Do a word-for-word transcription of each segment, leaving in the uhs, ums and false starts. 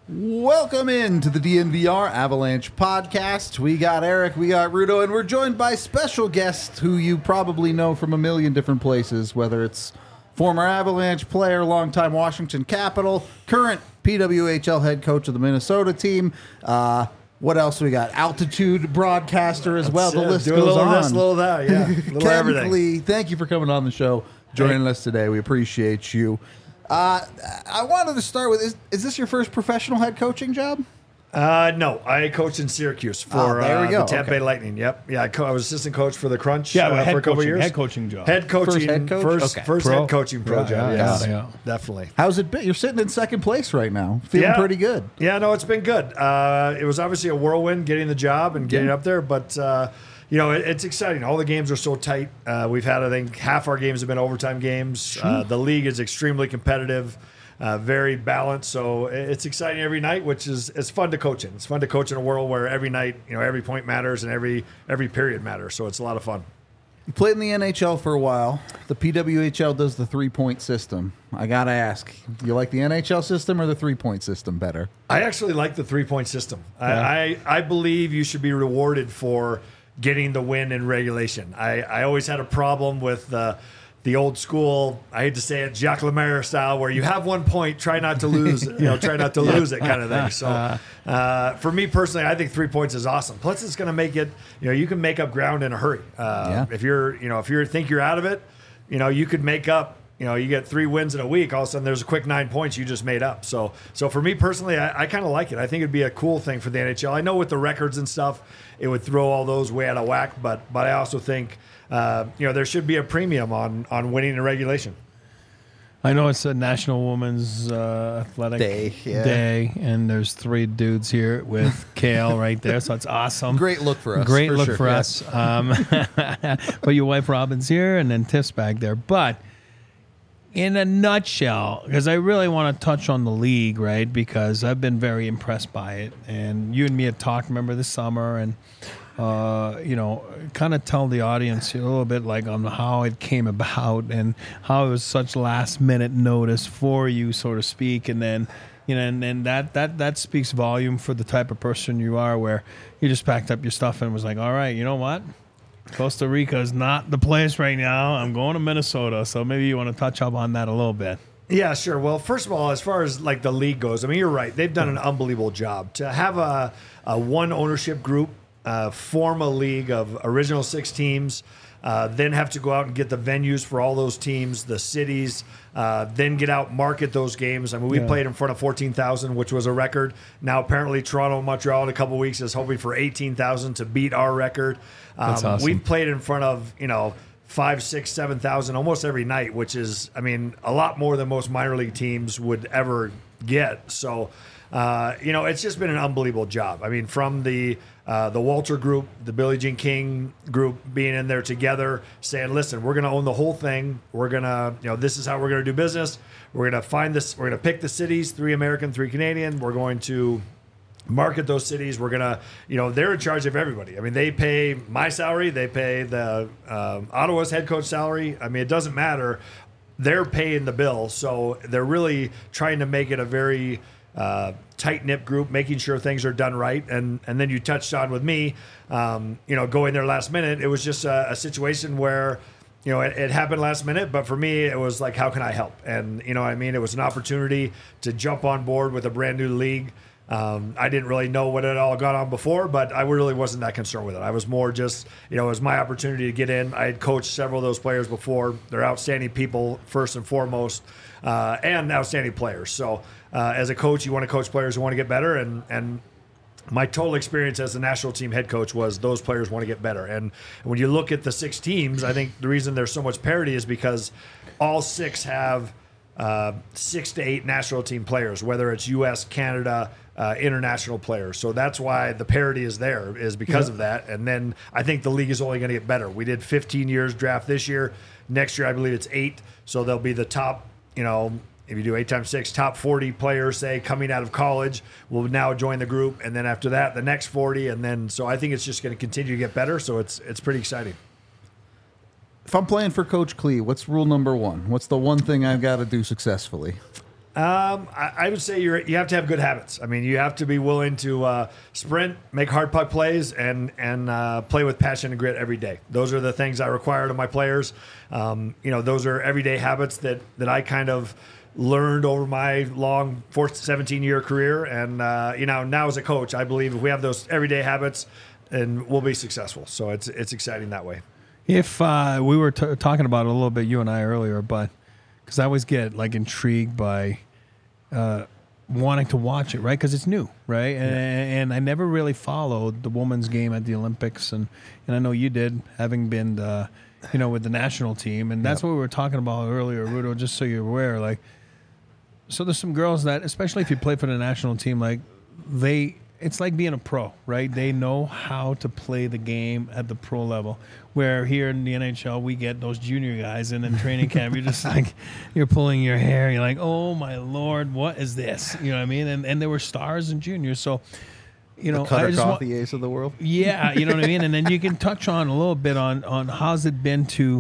Welcome in to the D N V R Avalanche podcast. We got Eric, we got Rudo, and we're joined by special guests who you probably know from a million different places, whether it's former Avalanche player, longtime Washington Capital, current P W H L head coach of the Minnesota team. Uh, what else we got? Altitude broadcaster as well. That's the it. list Do goes a little on. this, a little that, yeah. A little Ken everything. Klee, thank you for coming on the show, joining Hey. us today. We appreciate you. Uh, I wanted to start with, is, is this your first professional head coaching job? Uh, no, I coached in Syracuse for Oh, there we uh, go. the Tampa Okay. Bay Lightning. Yep, yeah, I, co- I was assistant coach for the Crunch Yeah, uh, but head for a couple coaching, years. head coaching job. Head coaching, First head coach? first, Okay. first Pro. head coaching pro Yeah, job. yeah, Yes, yeah. definitely. How's it been? You're sitting in second place right now. Feeling Yeah. pretty good. Yeah, no, it's been good. Uh, it was obviously a whirlwind getting the job and getting Yeah. up there, but uh, you know, it, it's exciting. All the games are so tight. Uh, we've had, I think, half our games have been overtime games. Uh, the league is extremely competitive. Uh, very balanced, so it's exciting every night, which is it's fun to coach in. It's fun to coach in a world where every night, you know, every point matters and every every period matters. So it's a lot of fun. You played in the N H L for a while. The P W H L does the three-point system. I got to ask, you like the N H L system or the three-point system better? I actually like the three point system. Yeah. I, I I believe you should be rewarded for getting the win in regulation. I I always had a problem with the. The old school, I hate to say it, Jacques Lemaire style, where you have one point, try not to lose, you know, try not to lose it kind of thing. So, uh, for me personally, I think three points is awesome. Plus, it's going to make it, you know, you can make up ground in a hurry. Uh, Yeah. If you're, you know, if you think you're out of it, you know, you could make up. You know, you get three wins in a week. All of a sudden, there's a quick nine points you just made up. So, so for me personally, I, I kind of like it. I think it'd be a cool thing for the N H L. I know with the records and stuff, it would throw all those way out of whack. But, but I also think, uh, you know, there should be a premium on on winning in regulation. I know it's a National Women's uh, Athletic Day, yeah. Day, and there's three dudes here with Kale right there, so it's awesome. Great look for us. Great for look sure, for yeah. us. Um, but your wife Robin's here, and then Tiff's back there. But in a nutshell, because I really want to touch on the league, right? Because I've been very impressed by it, and you and me had talked, remember, this summer, and uh, you know, kind of tell the audience a little bit like on how it came about and how it was such last minute notice for you, so to speak, and then. You know, and, and that, that, that speaks volume for the type of person you are, where you just packed up your stuff and was like, all right, you know what? Costa Rica is not the place right now. I'm going to Minnesota. So maybe you want to touch up on that a little bit. Yeah, sure. Well, first of all, as far as like the league goes, I mean, you're right. They've done an unbelievable job to have a, a one ownership group, uh, form a league of original six teams. Uh, then have to go out and get the venues for all those teams, the cities, uh, then get out, market those games. I mean, we Yeah. played in front of fourteen thousand, which was a record. Now, apparently, Toronto and Montreal in a couple weeks is hoping for eighteen thousand to beat our record. Um, That's awesome. We've played in front of, you know, five, six, seven thousand almost every night, which is, I mean, a lot more than most minor league teams would ever get. So, uh, you know, it's just been an unbelievable job. I mean, from the uh, the Walter group, the Billie Jean King group being in there together, saying, "Listen, we're going to own the whole thing. We're gonna, you know, this is how we're going to do business. We're going to find this. We're going to pick the cities, three American, three Canadian. We're going to." Market those cities. We're gonna, you know, they're in charge of everybody. I mean, they pay my salary, they pay the um, Ottawa's head coach salary. I mean, it doesn't matter. They're paying the bill, so they're really trying to make it a very uh, tight knit group, making sure things are done right. And and then you touched on with me, um, you know, going there last minute. It was just a, a situation where. You know, it, it happened last minute, but for me, it was like, how can I help? And, you know what I mean? It was an opportunity to jump on board with a brand new league. Um, I didn't really know what had all gone on before, but I really wasn't that concerned with it. I was more just, you know, it was my opportunity to get in. I had coached several of those players before. They're outstanding people, first and foremost, uh, and outstanding players. So uh, as a coach, you want to coach players who want to get better, and and my total experience as the national team head coach was those players want to get better. And when you look at the six teams, I think the reason there's so much parity is because all six have uh, six to eight national team players, whether it's U S, Canada, uh, international players. So that's why the parity is there, is because Yeah. of that. And then I think the league is only going to get better. We did fifteen years draft this year. Next year, I believe it's eight. So they'll be the top, you know, if you do eight times six, top forty players, say, coming out of college will now join the group. And then after that, the next forty. And then, so I think it's just going to continue to get better. So it's it's pretty exciting. If I'm playing for Coach Klee, what's rule number one? What's the one thing I've got to do successfully? Um, I, I would say you're you have to have good habits. I mean, you have to be willing to uh, sprint, make hard puck plays, and and uh, play with passion and grit every day. Those are the things I require of my players. Um, you know, those are everyday habits that that I kind of learned over my long seventeen year career. And uh, you know, now as a coach, I believe if we have those everyday habits, and we'll be successful. So it's it's exciting that way. If uh, we were t- talking about it a little bit, you and I earlier, but because I always get like intrigued by uh, wanting to watch it, right? Because it's new, right? And, yeah. and I never really followed the women's game at the Olympics, and, and I know you did, having been, uh, you know, with the national team, and that's yep. what we were talking about earlier, Rudo. Just so you're aware, like, so there's some girls that, especially if you play for the national team, like they. It's like being a pro, right? They know how to play the game at the pro level. Where here in the N H L, we get those junior guys, and in training camp, you're just like, you're pulling your hair. You're like, oh my Lord, what is this? You know what I mean? And and there were stars and juniors, so you know, the Cutter I just Coffee wa- ace of the world. Yeah, you know what I mean. And then you can touch on a little bit on on how's it been to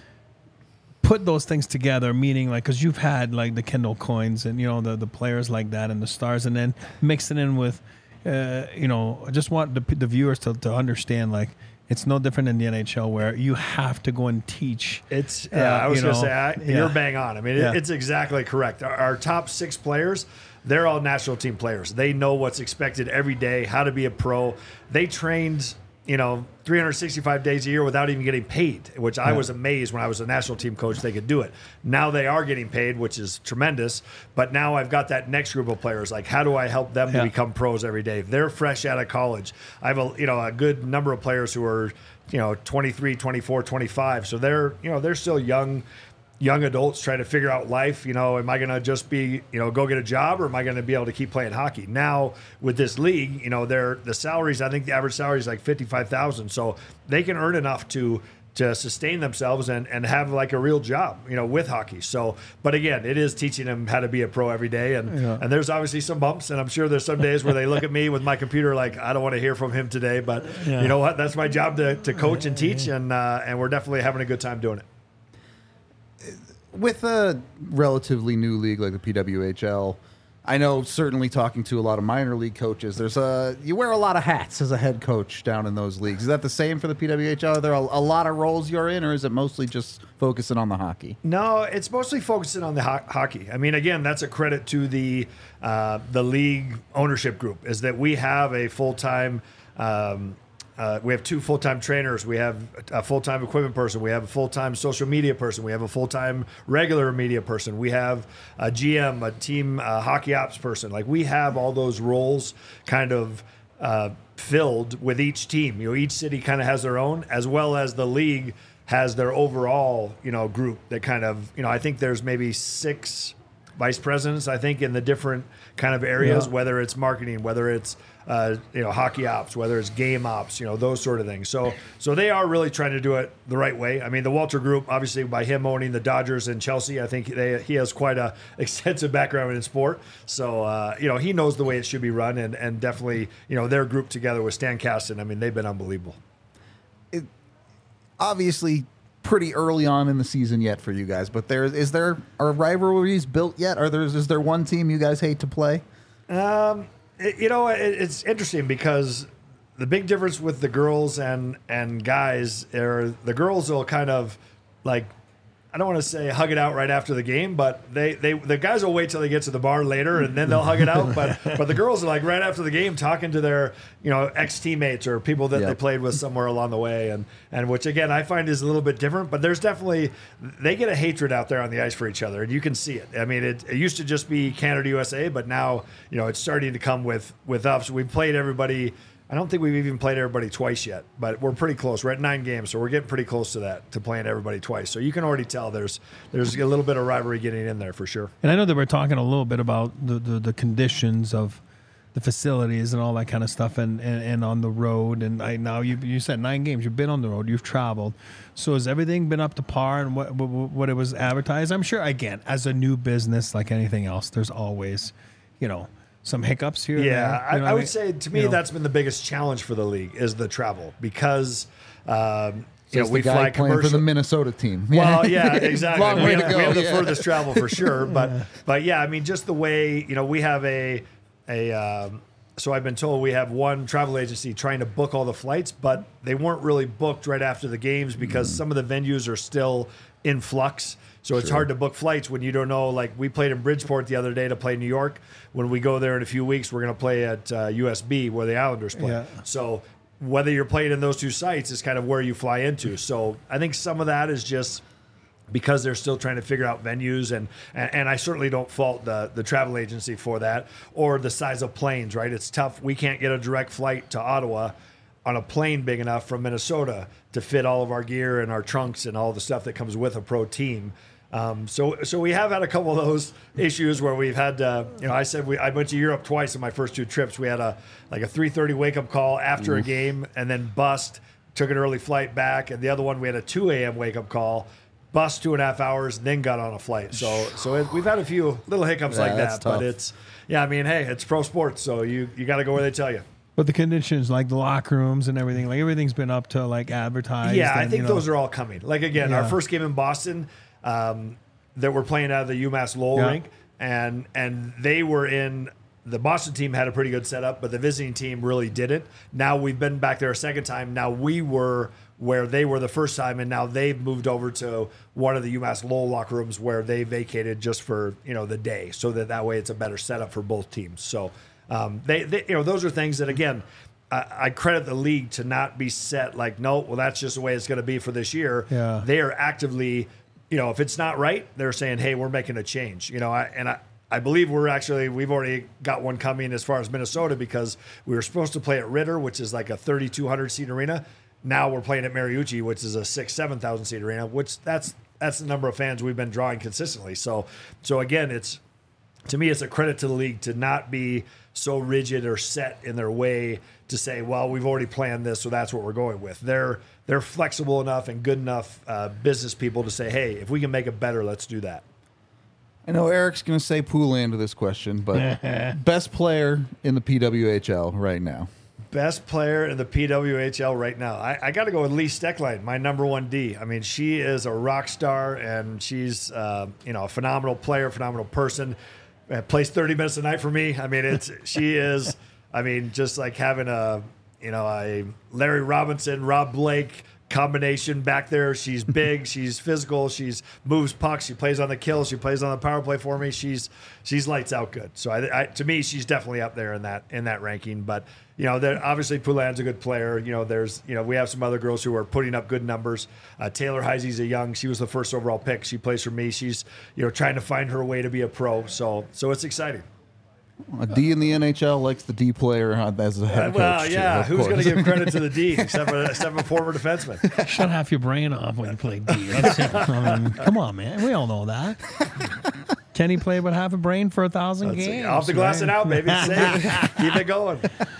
put those things together, meaning like, because you've had like the Kendall Coynes and you know the the players like that and the stars, and then mix it in with. Uh, you know, I just want the, the viewers to, to understand, like, it's no different in the N H L where you have to go and teach. It's, yeah, uh, I was going to say, I, yeah. you're bang on. I mean, yeah. it, it's exactly correct. Our, our top six players, they're all national team players. They know what's expected every day, how to be a pro. They trained, you know, three hundred sixty-five days a year without even getting paid, which I yeah. was amazed when I was a national team coach they could do it. Now they are getting paid, which is tremendous. But now I've got that next group of players. Like, how do I help them yeah. to become pros every day? They're fresh out of college. I have a you know a good number of players who are you know twenty-three, twenty-four, twenty-five. So they're you know they're still young. young adults trying to figure out life. You know, am I going to just be, you know, go get a job, or am I going to be able to keep playing hockey? Now with this league, you know, they're the salaries, I think the average salary is like fifty-five thousand. So they can earn enough to, to sustain themselves and, and have like a real job, you know, with hockey. So, but again, it is teaching them how to be a pro every day. And, yeah. and there's obviously some bumps, and I'm sure there's some days where they look at me with my computer, like, I don't want to hear from him today, but yeah. you know what, that's my job to, to coach and teach. And, uh, and we're definitely having a good time doing it. With a relatively new league like the P W H L, I know certainly talking to a lot of minor league coaches, there's a you wear a lot of hats as a head coach down in those leagues. Is that the same for the P W H L? Are there a, a lot of roles you're in, or is it mostly just focusing on the hockey? No, it's mostly focusing on the ho- hockey. I mean, again, that's a credit to the uh, the league ownership group, is that we have a full-time um, Uh, we have two full-time trainers. We have a full-time equipment person. We have a full-time social media person. We have a full-time regular media person. We have a G M, a team uh, hockey ops person. Like, we have all those roles kind of uh, filled with each team. You know, each city kind of has their own, as well as the league has their overall, you know, group that kind of, you know, I think there's maybe six vice presidents, I think, in the different kind of areas, yeah. whether it's marketing, whether it's uh, you know, hockey ops, whether it's game ops, you know, those sort of things. So, so they are really trying to do it the right way. I mean, the Walter Group, obviously, by him owning the Dodgers and Chelsea, I think they, he has quite a extensive background in sport. So, uh, you know, he knows the way it should be run, and and definitely, you know, their group together with Stan Kasten, I mean, they've been unbelievable. It, obviously, pretty early on in the season yet for you guys, but there is there are rivalries built yet? Are there is there one team you guys hate to play? Um. It, you know, it, it's interesting because the big difference with the girls and, and guys are the girls will kind of like, I don't want to say hug it out right after the game, but they, they the guys will wait till they get to the bar later and then they'll hug it out. But but the girls are like right after the game talking to their, you know, ex teammates or people that yep. they played with somewhere along the way, and and which again I find is a little bit different. But there's definitely they get a hatred out there on the ice for each other, and you can see it. I mean, it, it used to just be Canada U S A, but now you know it's starting to come with with us. We've played everybody. I don't think we've even played everybody twice yet, but we're pretty close. We're at nine games, so we're getting pretty close to that, to playing everybody twice. So you can already tell there's there's a little bit of rivalry getting in there for sure. And I know that we're talking a little bit about the, the, the conditions of the facilities and all that kind of stuff, and, and, and on the road. And I now you you said nine games. You've been on the road. You've traveled. So has everything been up to par and what what, what it was advertised? I'm sure, again, as a new business, like anything else, there's always, you know, some hiccups here. Yeah, you know I, I would mean? say to me you know. that's been the biggest challenge for the league is the travel, because um, you know, Says we the guy fly playing for commercial. the Minnesota team. Well, yeah, exactly. Long we, way have, to go, we have the yeah. furthest travel for sure, but but yeah, I mean, just the way, you know, we have a a. Um, so I've been told we have one travel agency trying to book all the flights, but they weren't really booked right after the games because mm. some of the venues are still in flux. So it's Sure. hard to book flights when you don't know. Like we played in Bridgeport the other day to play New York. When we go there in a few weeks, we're going to play at uh, U S B where the Islanders play. Yeah. So whether you're playing in those two sites is kind of where you fly into. So I think some of that is just because they're still trying to figure out venues, and, and and I certainly don't fault the the travel agency for that or the size of planes, right? It's tough. We can't get a direct flight to Ottawa on a plane big enough from Minnesota to fit all of our gear and our trunks and all the stuff that comes with a pro team. Um, so so we have had a couple of those issues where we've had, uh, you know, I said we I went to Europe twice in my first two trips. We had a like a three thirty wake up call after Oof. a game and then bust, took an early flight back. And the other one, we had a two a.m. wake up call, bust two and a half hours, then got on a flight. So so it, we've had a few little hiccups Yeah, like that's that. tough. But it's, yeah, I mean, hey, it's pro sports. So you, you got to go where they tell you. But the conditions, like the locker rooms and everything, like everything's been up to like advertised. Yeah, I and, think you know, those are all coming. Like, again, Yeah. our first game in Boston, um, that we're playing out of the UMass Lowell Yeah. rink, and and they were in the Boston team had a pretty good setup, but the visiting team really didn't. Now we've been back there a second time. Now we were where they were the first time, and now they've moved over to one of the UMass Lowell locker rooms where they vacated just for you know the day, so that that way it's a better setup for both teams. So um, they, they you know those are things that again. I I credit the league to not be set like, no, well, that's just the way it's going to be for this year. Yeah. They are actively, you know, if it's not right, they're saying, hey, we're making a change. You know, I, and I, I believe we're actually, we've already got one coming as far as Minnesota because we were supposed to play at Ritter, which is like a thirty-two hundred seat arena. Now we're playing at Mariucci, which is a six, seven thousand seat arena, which that's that's the number of fans we've been drawing consistently. So, so again, it's, to me, it's a credit to the league to not be so rigid or set in their way to say, well, we've already planned this, so that's what we're going with. They're they're flexible enough and good enough uh, business people to say, hey, if we can make it better, let's do that. I know Eric's going to say Poulan to this question, but best player in the P W H L right now. Best player in the P W H L right now. I, I got to go with Lee Stecklein, my number one D. I mean, she is a rock star, and she's uh, you know a phenomenal player, phenomenal person. Uh, plays thirty minutes a night for me. I mean, it's she is. I mean, just like having a you know a Larry Robinson, Rob Blake combination back there. She's big, she's physical, she's moves pucks, she plays on the kill, she plays on the power play for me. She's she's lights out good. So I, I to me, she's definitely up there in that in that ranking. But you know, there, obviously Poulan's a good player. You know, there's you know we have some other girls who are putting up good numbers. Uh, Taylor Heisey's a young. She was the first overall pick. She plays for me. She's you know trying to find her way to be a pro. So so it's exciting. A D in the N H L likes the D player as a head Uh, coach. well, too, yeah. of Who's going to course. give credit to the D except for, except for former defenseman? Shut half your brain off when you play D. That's it. I mean, come on, man. We all know that. Kenny played with half a brain for a thousand Let's see. games. Off the glass right? and out, baby. Safe. Keep it going.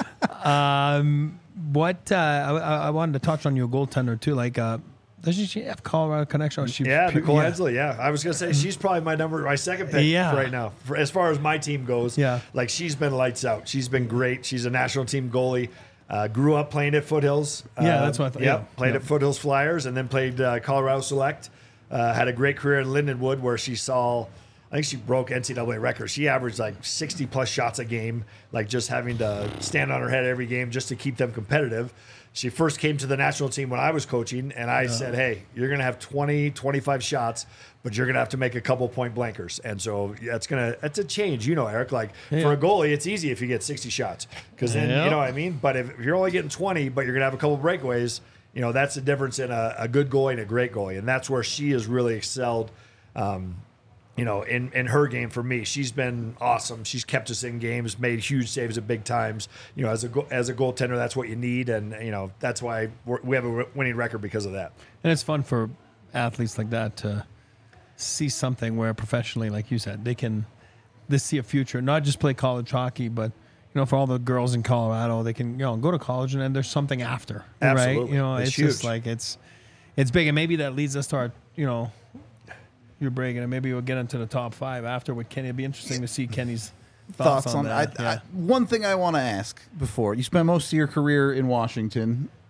Um, what uh, I, I wanted to touch on your goaltender too. Like, uh, doesn't she have Colorado connection? Or she Yeah, pu- Nicole yeah. Hensley. Yeah, I was gonna say she's probably my number, my second pick Yeah. right now. For, as far as my team goes, Yeah. like she's been lights out. She's been great. She's a national team goalie. Uh, grew up playing at Foothills. Yeah, Uh, that's what I thought. Yep, Yeah. played Yeah. at Foothills Flyers, and then played uh, Colorado Select. Uh, had a great career in Lindenwood, where she saw. I think she broke N C double A records. She averaged like sixty plus shots a game, like just having to stand on her head every game just to keep them competitive. She first came to the national team when I was coaching, and I said, hey, you're going to have twenty, twenty-five shots, but you're going to have to make a couple point blankers. And so that's going to, that's a change, you know, Eric. Like Yeah. for a goalie, it's easy if you get sixty shots because then, Yeah. you know what I mean? But if you're only getting twenty, but you're going to have a couple breakaways, you know, that's the difference in a, a good goalie and a great goalie. And that's where she has really excelled. Um, you know, in, in her game for me, she's been awesome. She's kept us in games, made huge saves at big times. You know, as a go- as a goaltender, that's what you need, and you know that's why we're, we have a winning record because of that. And it's fun for athletes like that to see something where professionally, like you said, they can they see a future, not just play college hockey, but you know, for all the girls in Colorado, they can you know go to college and then there's something after, right? Absolutely. You know, It's it's, just huge. like it's it's big, and maybe that leads us to our you know. You're breaking, and maybe we'll get into the top five after with Kenny. It'd be interesting to see Kenny's thoughts, Thoughts on, on that. I, yeah. I, one thing I want to ask before you spent most of your career in Washington,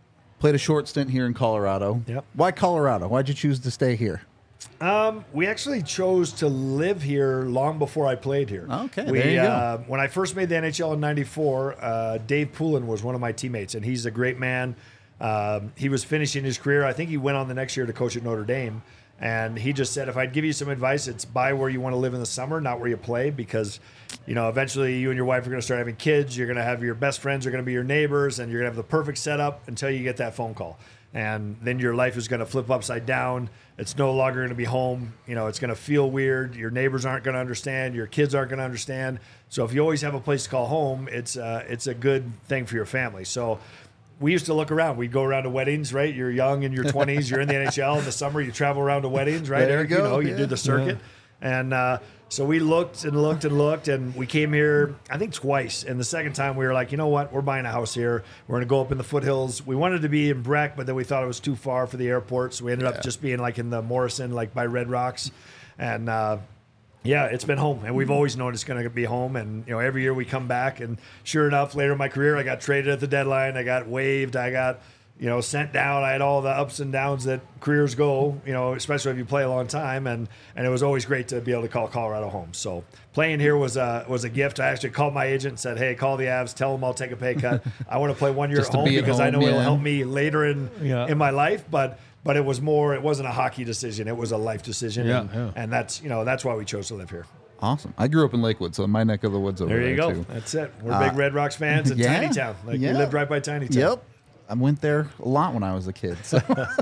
Played a short stint here in Colorado. Yep. Why Colorado? Why'd you choose to stay here? Um, we actually chose to live here long before I played here. Okay, we, there you go. Uh, when I first made the N H L in ninety-four, uh, Dave Poulin was one of my teammates, and he's a great man. Um, he was finishing his career. I think he went on the next year to coach at Notre Dame. And he just said, if I'd give you some advice, it's buy where you want to live in the summer, not where you play, because, you know, eventually you and your wife are going to start having kids. You're going to have your best friends are going to be your neighbors, and you're going to have the perfect setup until you get that phone call. And then your life is going to flip upside down. It's no longer going to be home. You know, it's going to feel weird. Your neighbors aren't going to understand. Your kids aren't going to understand. So if you always have a place to call home, it's uh, it's a good thing for your family. So we used to look around. We'd go around to weddings, right? You're young in your twenties. You're in the N H L in the summer. You travel around to weddings, right? There you Eric? go, You know, you yeah. do the circuit. And uh, so we looked and looked and looked, and we came here, I think, twice. And the second time we were like, you know what? We're buying a house here. We're going to go up in the foothills. We wanted to be in Breck, but then we thought it was too far for the airport. So we ended Yeah. up just being like in the Morrison, like by Red Rocks. And uh, yeah, it's been home, and we've always known it's going to be home. And you know, every year we come back, and sure enough, later in my career, I got traded at the deadline. I got waived. I got, you know, sent down. I had all the ups and downs that careers go. You know, especially if you play a long time. And and it was always great to be able to call Colorado home. So playing here was a was a gift. I actually called my agent and said, "Hey, call the Avs. Tell them I'll take a pay cut. I want to play one year Just at to home be at because I home, know it'll yeah. help me later in Yeah. in my life." But but it was more. It wasn't a hockey decision. It was a life decision. Yeah, and, yeah. and that's you know that's why we chose to live here. Awesome. I grew up in Lakewood, so my neck of the woods over There there you go. too. That's it. We're big Red Rocks fans and yeah, Tiny Town. Like yeah. we lived right by Tiny Town. Yep. I went there a lot when I was a kid. So.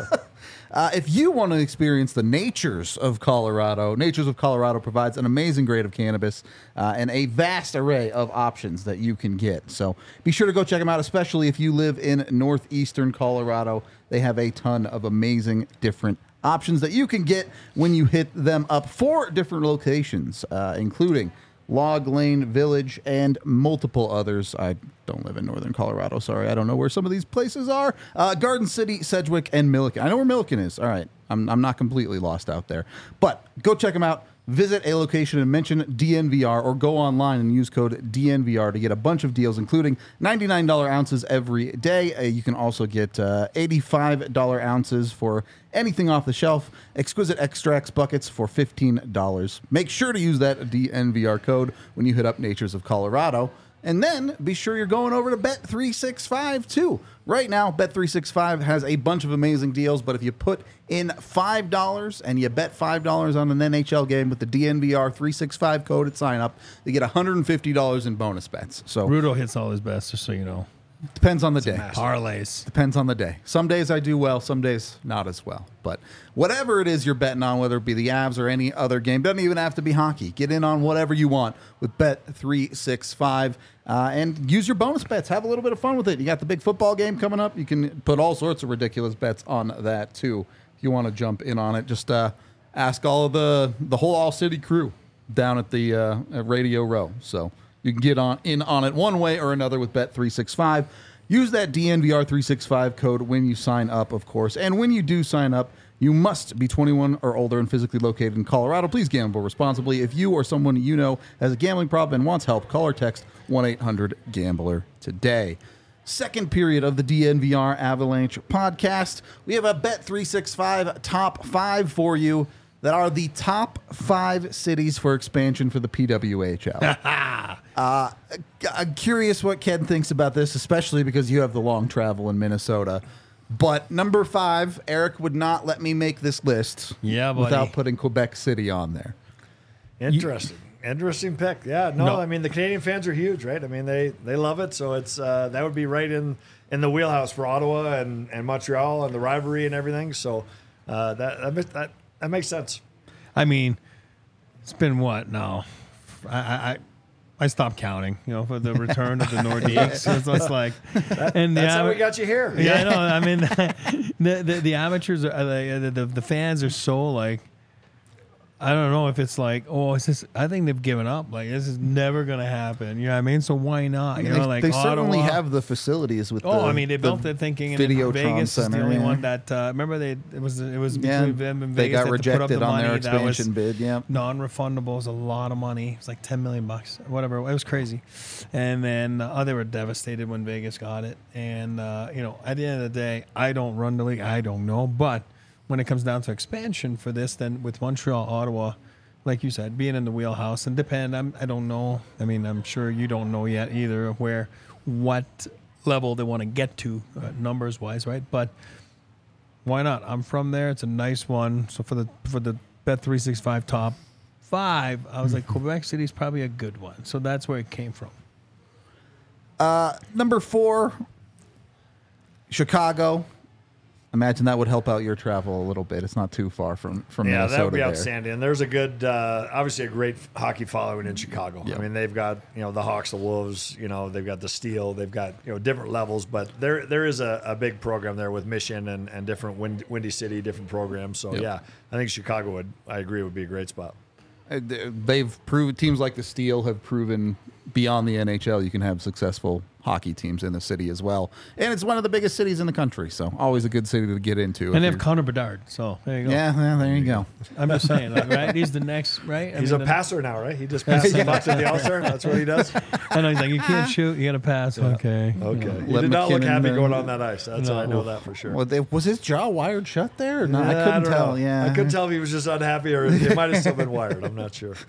Uh, if you want to experience the natures of Colorado, Natures of Colorado provides an amazing grade of cannabis uh, and a vast array of options that you can get. So be sure to go check them out, especially if you live in northeastern Colorado. They have a ton of amazing different options that you can get when you hit them up. Four different locations, uh, including Log Lane Village, and multiple others. I don't live in northern Colorado. Sorry, I don't know where some of these places are. Uh, Garden City, Sedgwick, and Milliken. I know where Milliken is. All right, I'm, I'm not completely lost out there. But go check them out. Visit a location and mention D N V R, or go online and use code D N V R to get a bunch of deals, including ninety-nine dollars ounces every day. Uh, you can also get uh, eighty-five dollars ounces for anything off the shelf. Exquisite extracts buckets for fifteen dollars. Make sure to use that D N V R code when you hit up Natures of Colorado. And then be sure you're going over to Bet three sixty-five too. Right now, Bet three sixty-five has a bunch of amazing deals, but if you put in five dollars and you bet five dollars on an N H L game with the D N V R three sixty-five code at sign up, you get one hundred fifty dollars in bonus bets. So Rudo hits all his best, just so you know. depends on the day. Parlays. Depends on the day. Some days I do well, some days not as well. But whatever it is you're betting on, whether it be the Avs or any other game, doesn't even have to be hockey. Get in on whatever you want with Bet three sixty-five uh, and use your bonus bets. Have a little bit of fun with it. You got the big football game coming up. You can put all sorts of ridiculous bets on that too. If you want to jump in on it, just uh, ask all of the, the whole All City crew down at the uh, at Radio Row. So you can get on in on it one way or another with Bet three sixty-five. Use that D N V R three sixty-five code when you sign up, of course. And when you do sign up, you must be twenty-one or older and physically located in Colorado. Please gamble responsibly. If you or someone you know has a gambling problem and wants help, call or text one eight hundred gambler today. Second period of the D N V R Avalanche podcast. We have a Bet three sixty-five top five for you that are the top five cities for expansion for the P W H L. uh, I'm curious what Ken thinks about this, especially because you have the long travel in Minnesota. But number five, Eric would not let me make this list Yeah, buddy. without putting Quebec City on there. Interesting. Interesting pick. Yeah, no, No. I mean the Canadian fans are huge, right? I mean they they love it, so it's uh, that would be right in, in the wheelhouse for Ottawa and, and Montreal and the rivalry and everything. So uh, that that makes- that that makes sense. I mean, it's been what now? I I, I stopped counting. You know, for the return of the Nordiques. So it's just like, and the That's how ama- we got you here. Yeah, I know. I mean, the, the the amateurs are like, the, the the fans are so like. I don't know if it's like, oh, it's just, I think they've given up. Like, this is never going to happen. You know what I mean? So why not? You they know, like they certainly Ottawa. have the facilities with. Oh, the, I mean, they the built it thinking, and Videotron Vegas is the Center, only yeah. one that. Uh, remember, they it was it was Yeah, between them and they Vegas. got had to put up rejected the on their money. That was expansion bid. Yeah, non-refundable. It was a lot of money. It was like ten million bucks, or whatever. It was crazy. And then uh, oh, they were devastated when Vegas got it. And uh, you know, at the end of the day, I don't run the league. I don't know, but when it comes down to expansion for this, then with Montreal, Ottawa. Like you said, being in the wheelhouse and depend. I'm, I don't know. I mean, I'm sure you don't know yet either where, what level they want to get to, uh, numbers wise, right? But why not? I'm from there. It's a nice one. So for the for the Bet three sixty-five top five, I was like, Quebec City is probably a good one. So that's where it came from. uh, number four, Chicago. Imagine that would help out your travel a little bit. It's not too far from from Yeah, Minnesota that would be there. outstanding. And there's a good, uh, obviously a great hockey following in Chicago. Yeah. I mean, they've got, you know, the Hawks, the Wolves, you know, they've got the Steel, they've got, you know, different levels, but there there is a, a big program there with Mission and, and different Wind, Windy City, different programs. So, Yep. yeah, I think Chicago would, I agree, would be a great spot. Uh, They've proved teams like the Steel have proven beyond the N H L you can have successful hockey teams in the city as well, and it's one of the biggest cities in the country. So always a good city to get into. if And they have you're- Connor Bedard. So there you go. yeah, well, there you go. I'm just saying, like, right? He's the next, right? I He's mean, a the- passer now, right? He just passes the buck to the All-Star. That's what he does. I know he's like, you can't shoot, you got to pass. Okay. Okay. He Let did not look McKinnon, happy uh, going on that ice. That's No. I know that for sure. Well, they, was his jaw wired shut there? Or not? I Yeah, couldn't don't tell. know. Yeah, I couldn't tell if he was just unhappy or it might have still been wired. I'm not sure.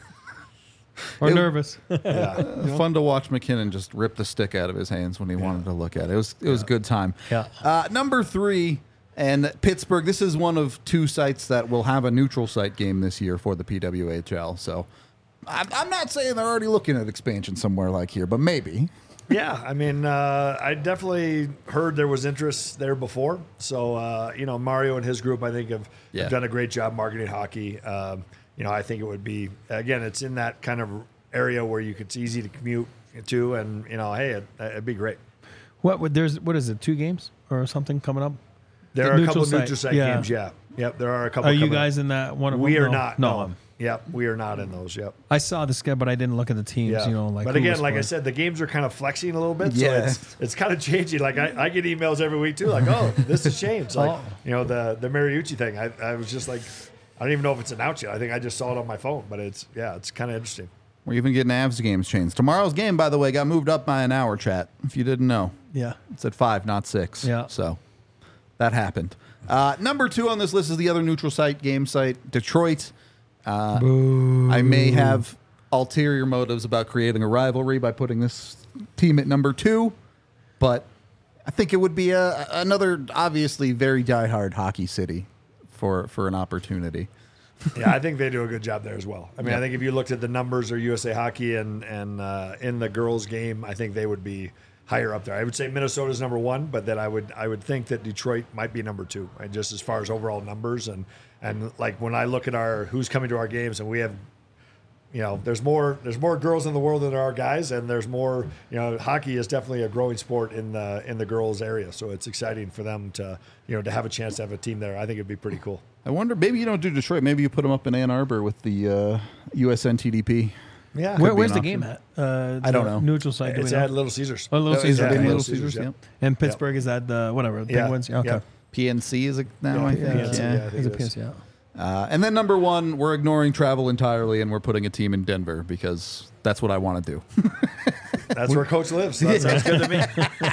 Or It- nervous. Yeah. Fun to watch McKinnon just rip the stick out of his hands when he wanted to look at it. It was it was a good time. Yeah. Uh, number three, and Pittsburgh. This is one of two sites that will have a neutral site game this year for the P W H L. So I'm, I'm not saying they're already looking at expansion somewhere like here, but maybe. Yeah, I mean, uh, I definitely heard there was interest there before. So, uh, you know, Mario and his group, I think, have, Yeah. have done a great job marketing hockey. Um, you know, I think it would be, again, it's in that kind of area where you could, it's easy to commute to, and, you know, hey, it, it'd be great. What would there's what is it? Two games or something coming up? There The are a neutral couple site, neutral site yeah. games, yeah. Yep, there are a couple Are you coming up. guys in that one? Of We them? are No. not. No. No. Yep, we are not in those. Yep. I saw the schedule, but I didn't look at the teams. Yeah. You know, like. but who again, was like I playing. said, the games are kind of flexing a little bit. So Yeah. it's, it's kind of changing. Like I, I get emails every week too, like, oh, this has changed. Like, Oh. you know, the the Mariucci thing. I, I was just like, I don't even know if it's announced yet. I think I just saw it on my phone, but it's, yeah, it's kind of interesting. We're even getting Avs games changed. Tomorrow's game, by the way, got moved up by an hour, chat, if you didn't know. Yeah. It's at five, not six. Yeah. So that happened. Uh, number two on this list is the other neutral site game site, Detroit. Uh, I may have ulterior motives about creating a rivalry by putting this team at number two, but I think it would be a, another obviously very diehard hockey city for, for an opportunity. Yeah, I think they do a good job there as well. I mean, Yeah. I think if you looked at the numbers or U S A Hockey and and uh, in the girls' game, I think they would be higher up there. I would say Minnesota's number one, but then I would I would think that Detroit might be number two, and just as far as overall numbers and and like when I look at our who's coming to our games, and we have. You know, there's more there's more girls in the world than there are guys, and there's more. You know, hockey is definitely a growing sport in the in the girls area, so it's exciting for them to you know to have a chance to have a team there. I think it'd be pretty cool. I wonder, maybe you don't do Detroit. Maybe you put them up in Ann Arbor with the uh, U S N T D P. Yeah, Where, be where's an the option. game at? Uh, I don't the know. Neutral site. Do it's we know? at Little Caesars. Oh, Little Oh, is Caesars. it in Yeah, Little Little Caesars? Caesars, Yep. And Pittsburgh is at the whatever the Yeah. Penguins. Yeah, okay. Yeah. P N C is it now, Yeah, I P think. N C, Yeah. yeah. I think Is it it is. P S? Yeah. Uh, and then number one, we're ignoring travel entirely, and we're putting a team in Denver because that's what I want to do. That's where Coach lives. So that sounds good to me.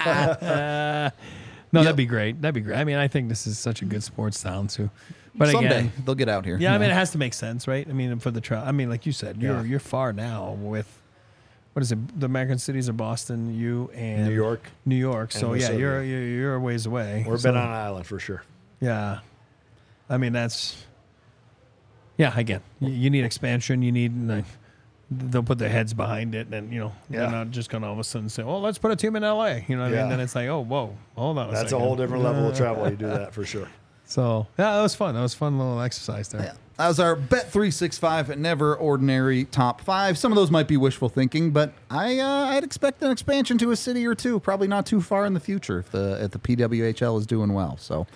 No, Yep. that'd be great. That'd be great. I mean, I think this is such a good sports town too. But Someday again, they'll get out here. yeah, I mean, it has to make sense, right? I mean, for the trial. I mean, like you said, you're Yeah. you're far now with what is it? The American cities are Boston, you and New York. New York. So And yeah, Minnesota. you're you're you're a ways away. We're so, been on an island for sure. Yeah, I mean that's. Yeah, again, you, you need expansion. You need like they'll put their heads behind it, and you know they're Yeah. not just gonna all of a sudden say, "Oh, let's put a team in L A." You know what I Yeah. mean? Then it's like, "Oh, whoa, hold on." A That's a second. whole different level of travel. You do that for sure. So yeah, that was fun. That was a fun little exercise there. Yeah. That was our Bet three sixty-five Never Ordinary Top five. Some of those might be wishful thinking, but I, uh, I'd expect an expansion to a city or two, probably not too far in the future if the, if the P W H L is doing well. So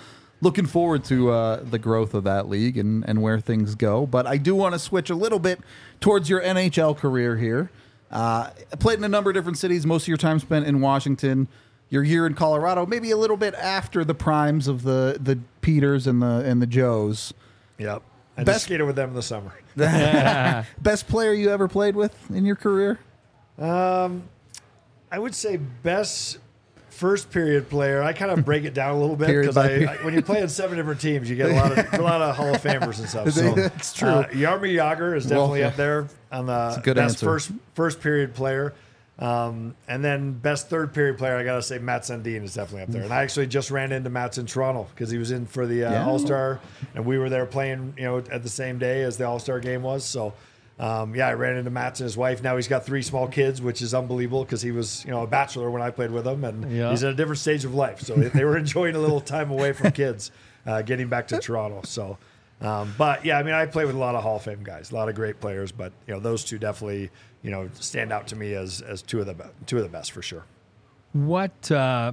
looking forward to uh, the growth of that league and, and where things go. But I do want to switch a little bit towards your N H L career here. Uh, played in a number of different cities, most of your time spent in Washington. You're here in Colorado, maybe a little bit after the primes of the, the Peters and the and the Joes. Yep. I Best- just skated with them in the summer. Best player you ever played with in your career? Um, I would say best first period player. I kind of break it down a little bit Period because by I, period. I when you play in seven different teams, you get a lot of a lot of Hall of Famers and stuff. So That's true. Uh, Jaromir Jagr is definitely Well, up there on the a good best answer. first first period player. Um, and then best third period player, I gotta say Matt Sundin is definitely up there. And I actually just ran into Matt in Toronto because he was in for the uh, Yeah. All Star, and we were there playing, you know, at the same day as the All Star game was. So, um, yeah, I ran into Matt and his wife. Now he's got three small kids, which is unbelievable because he was, you know, a bachelor when I played with him, and Yeah. he's at a different stage of life. So they were enjoying a little time away from kids, uh, getting back to Toronto. So. Um, but yeah, I mean, I play with a lot of Hall of Fame guys, a lot of great players, but you know, those two definitely, you know, stand out to me as as two of the be- two of the best for sure. What, uh,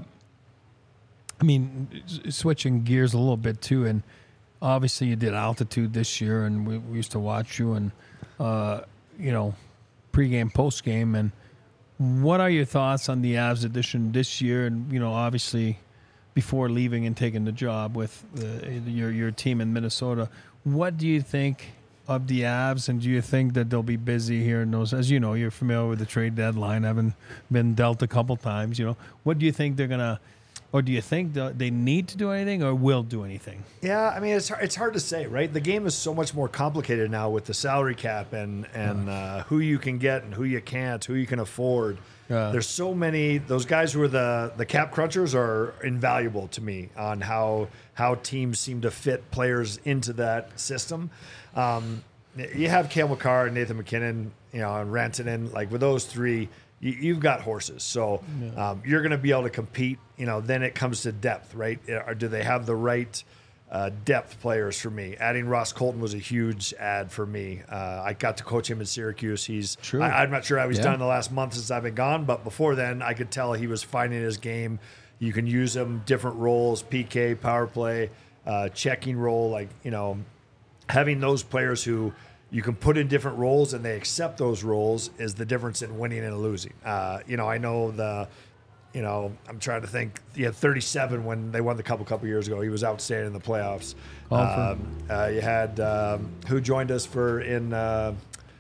I mean, s- switching gears a little bit too, and obviously you did altitude this year, and we, we used to watch you, and uh, you know, pregame, postgame, and what are your thoughts on the Avs edition this year? And you know, obviously, before leaving and taking the job with the, your your team in Minnesota, what do you think of the Avs, and do you think that they'll be busy here in those? As you know, you're familiar with the trade deadline, having been dealt a couple times. You know, what do you think they're gonna, or do you think that they need to do anything, or will do anything? Yeah, I mean, it's hard, it's hard to say, right? The game is so much more complicated now with the salary cap and and uh, who you can get and who you can't, who you can afford. Yeah. There's so many. Those guys who are the the cap crunchers are invaluable to me on how how teams seem to fit players into that system. Um, you have Cale Makar and Nathan McKinnon, you know, and Rantanen. Like with those three, you, you've got horses. So um, you're going to be able to compete. You know, then it comes to depth, right? Or do they have the right uh, depth players for me? Adding Ross Colton was a huge add for me. Uh, I got to coach him in Syracuse. He's True. I, I'm not sure how he's Yeah. done in the last month since I've been gone, but before then, I could tell he was finding his game. You can use him different roles: P K, power play, uh, checking role. Like you know, having those players who you can put in different roles and they accept those roles is the difference in winning and losing. Uh, you know, I know the, you know, I'm trying to think. He had thirty-seven when they won the cup a couple years ago. He was outstanding in the playoffs. Awful. Um, uh, you had um, who joined us for in uh,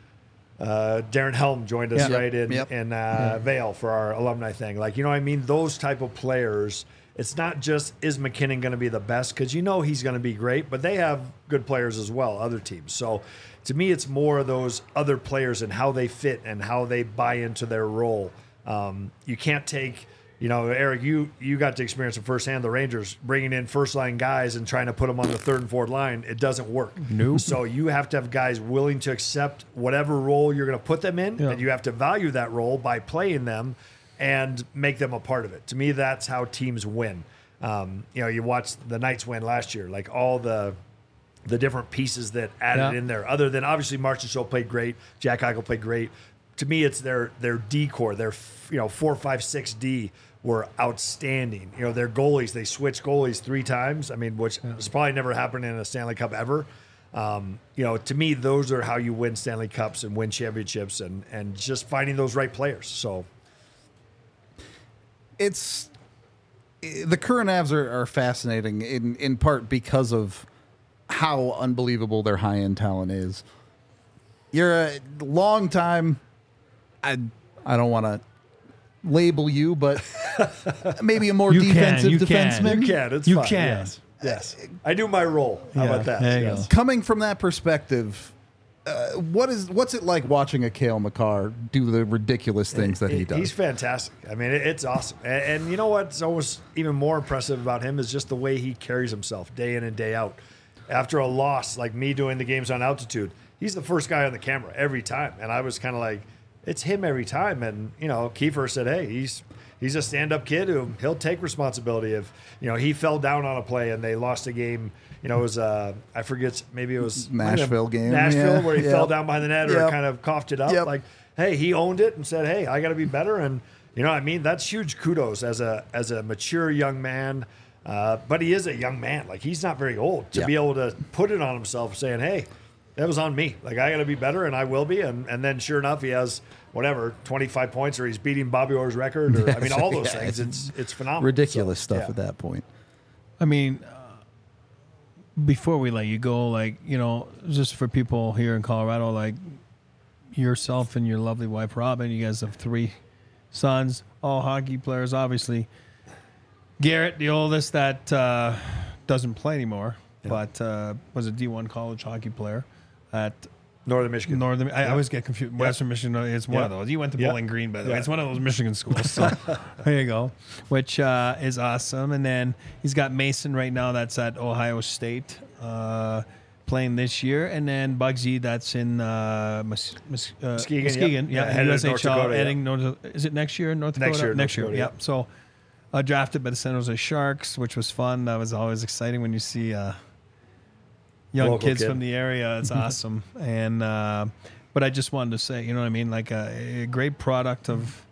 uh, Darren Helm joined us Yeah. right in Yep. in uh, Vail for our alumni thing. Like you know, what I mean, those type of players. It's not just is McKinnon going to be the best because you know he's going to be great, but they have good players as well, other teams. So to me, it's more of those other players and how they fit and how they buy into their role. Um, you can't take, you know, Eric, you you got to experience it firsthand. The Rangers bringing in first line guys and trying to put them on the third and fourth line. It doesn't work. Nope. So you have to have guys willing to accept whatever role you're going to put them in, Yeah. and you have to value that role by playing them and make them a part of it. To me, that's how teams win. Um, you know, you watch the Knights win last year, like all the the different pieces that added Yeah. in there. Other than obviously Marchand Show played great, Jack Eichel played great. To me, it's their their D core, their you know four, five, six D were outstanding. You know, their goalies, they switched goalies three times. I mean, which has probably never happened in a Stanley Cup ever. Um, you know, to me, those are how you win Stanley Cups and win championships, and and just finding those right players. So. It's the current Avs are, are fascinating in, in part because of how unbelievable their high end talent is. You're a long time. I I don't want to label you, but maybe a more You can, defensive you can. defenseman. You can. It's You fine. can. Yes. Yes. I do my role. How Yeah, about that? there you Yes. go. Coming from that perspective, uh, what is what's it like watching a Cale Makar do the ridiculous things that he does? He's fantastic. I mean, it, it's awesome. And, and you know what's almost even more impressive about him is just the way he carries himself day in and day out. After a loss, like me doing the games on altitude, he's the first guy on the camera every time. And I was kind of like, it's him every time. And, you know, Kiefer said, hey, he's he's a stand-up kid who he'll take responsibility if, you know, he fell down on a play and they lost a game. You know, it was, uh, I forget, maybe it was Nashville game. Nashville, Yeah. where he Yep. fell down behind the net or Yep. kind of coughed it up. Yep. Like, hey, he owned it and said, hey, I got to be better. And, you know what I mean? That's huge kudos as a as a mature young man. Uh, but he is a young man. Like, he's not very old to Yeah. be able to put it on himself saying, hey, that was on me. Like, I got to be better, and I will be. And, and then sure enough, he has whatever, twenty-five points, or he's beating Bobby Orr's record. Or, I mean, all those Yeah, things. it's It's it's phenomenal. Ridiculous So, stuff yeah. at that point. I mean, uh, before we let you go, like, you know, just for people here in Colorado, like yourself and your lovely wife, Robin, you guys have three sons, all hockey players, obviously. Garrett, the oldest, that uh, doesn't play anymore, Yeah. but uh, was a D one college hockey player at Northern Michigan. Northern. I Yeah. always get confused. Western Michigan, it's one Yeah. of those. You went to Yeah. Bowling Green, by the way. Yeah. It's one of those Michigan schools. So there you go, which uh, is awesome. And then he's got Mason right now that's at Ohio State uh, playing this year. And then Bugsy that's in uh, Mus- Mus- uh, Muskegon, Muskegon. yep. Yeah, Yeah, headed to North U S H L. Dakota, yeah. Heading North, is it next year in North Dakota? Next year, Next North year, Dakota, yep. So uh, drafted by the San Jose Sharks, which was fun. That was always exciting when you see uh, young Local kids kid. from the area. It's awesome. And uh, but I just wanted to say, you know what I mean, like a, a great product of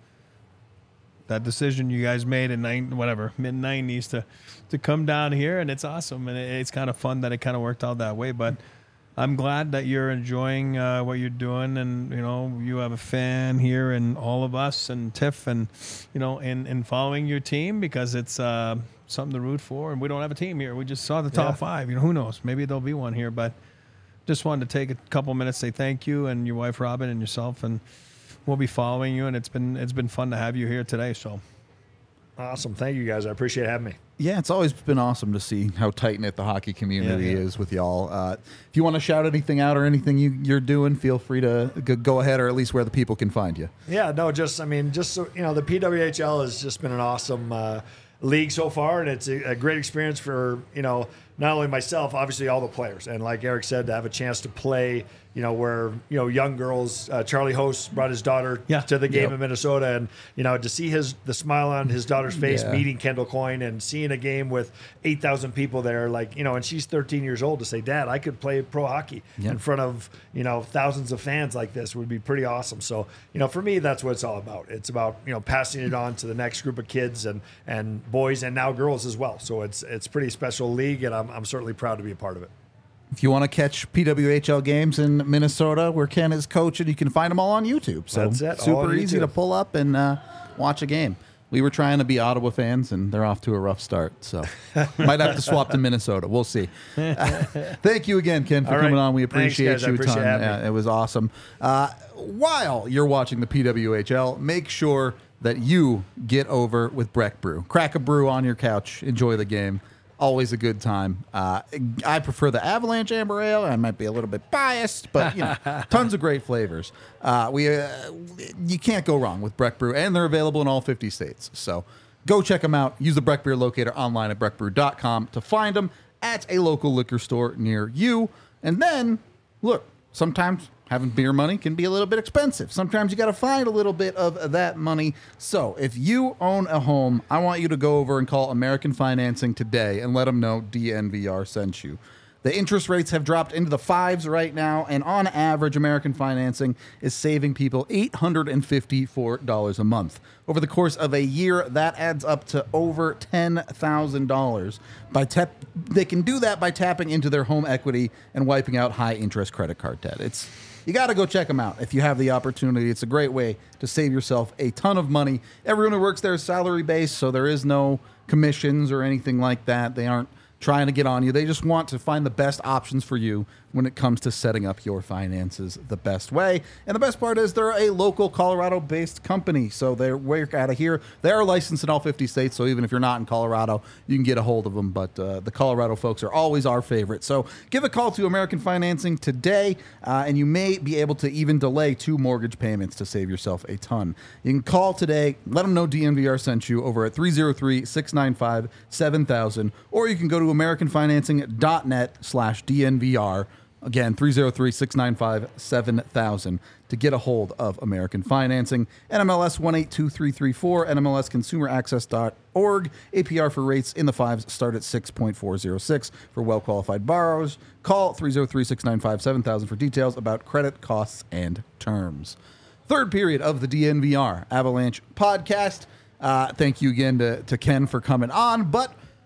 that decision you guys made in nine, whatever mid nineties to to come down here, and it's awesome, and it, it's kind of fun that it kind of worked out that way. But I'm glad that you're enjoying uh, what you're doing, and you know you have a fan here, and all of us, and Tiff, and you know, in in following your team, because it's uh, something to root for. And we don't have a team here; we just saw the top Yeah. five. You know, who knows? Maybe there'll be one here, but just wanted to take a couple minutes, say thank you, and your wife Robin, and yourself, and we'll be following you. And it's been it's been fun to have you here today. So Awesome. Thank you, guys. I appreciate having me. Yeah, it's always been awesome to see how tight knit the hockey community Yeah, yeah. is with y'all. Uh, if you want to shout anything out or anything you, you're doing, feel free to g- go ahead, or at least where the people can find you. Yeah, no, just I mean, just so you know, the P W H L has just been an awesome uh, league so far, and it's a, a great experience for you know not only myself, obviously all the players, and like Eric said, to have a chance to play. You know, where you know young girls. Uh, Charlie Host brought his daughter Yeah. to the game Yep. in Minnesota, and you know to see his the smile on his daughter's face, Yeah. meeting Kendall Coyne, and seeing a game with eight thousand people there, like you know, and she's thirteen years old to say, "Dad, I could play pro hockey Yep. in front of you know thousands of fans like this would be pretty awesome." So you know, for me, that's what it's all about. It's about you know passing it on to the next group of kids and and boys and now girls as well. So it's it's a pretty special league, and I'm I'm certainly proud to be a part of it. If you want to catch P W H L games in Minnesota, where Ken is coaching, you can find them all on YouTube. So That's it, all super on easy YouTube. to pull up and uh, watch a game. We were trying to be Ottawa fans, and they're off to a rough start. So might have to swap to Minnesota. We'll see. Uh, thank you again, Ken, for All right. coming on. We Thanks, appreciate guys. I you a appreciate ton. having Yeah, me. it was awesome. Uh, while you're watching the P W H L, make sure that you get over with Breck Brew. Crack a brew on your couch. Enjoy the game. Always a good time. Uh, I prefer the Avalanche Amber Ale. I might be a little bit biased, but you know, tons of great flavors. Uh, we uh, you can't go wrong with Breck Brew, and they're available in all fifty states. So go check them out. Use the Breck Beer Locator online at breck brew dot com to find them at a local liquor store near you. And then look, sometimes having beer money can be a little bit expensive. Sometimes you got to find a little bit of that money. So if you own a home, I want you to go over and call American Financing today and let them know D N V R sent you. The interest rates have dropped into the fives right now, and on average, American Financing is saving people eight hundred fifty-four dollars a month. Over the course of a year, that adds up to over ten thousand dollars. By tap, they can do that by tapping into their home equity and wiping out high-interest credit card debt. It's you got to go check them out if you have the opportunity. It's a great way to save yourself a ton of money. Everyone who works there is salary-based, so there is no commissions or anything like that. They aren't trying to get on you. They just want to find the best options for you when it comes to setting up your finances the best way. And the best part is they're a local Colorado-based company, so they work out of here. They are licensed in all fifty states, so even if you're not in Colorado, you can get a hold of them. But uh, the Colorado folks are always our favorite. So give a call to American Financing today, uh, and you may be able to even delay two mortgage payments to save yourself a ton. You can call today, let them know D N V R sent you over at three oh three, six nine five, seven thousand, or you can go to american financing dot net slash D N V R. Again, three oh three, six nine five, seven thousand to get a hold of American Financing. N M L S one eight two three three four, N M L S consumer access dot org. A P R for rates in the fives start at six point four oh six for well-qualified borrowers. Call three oh three, six nine five, seven thousand for details about credit costs and terms. Third period of the D N V R Avalanche podcast. Uh, thank you again to, to Ken for coming on, but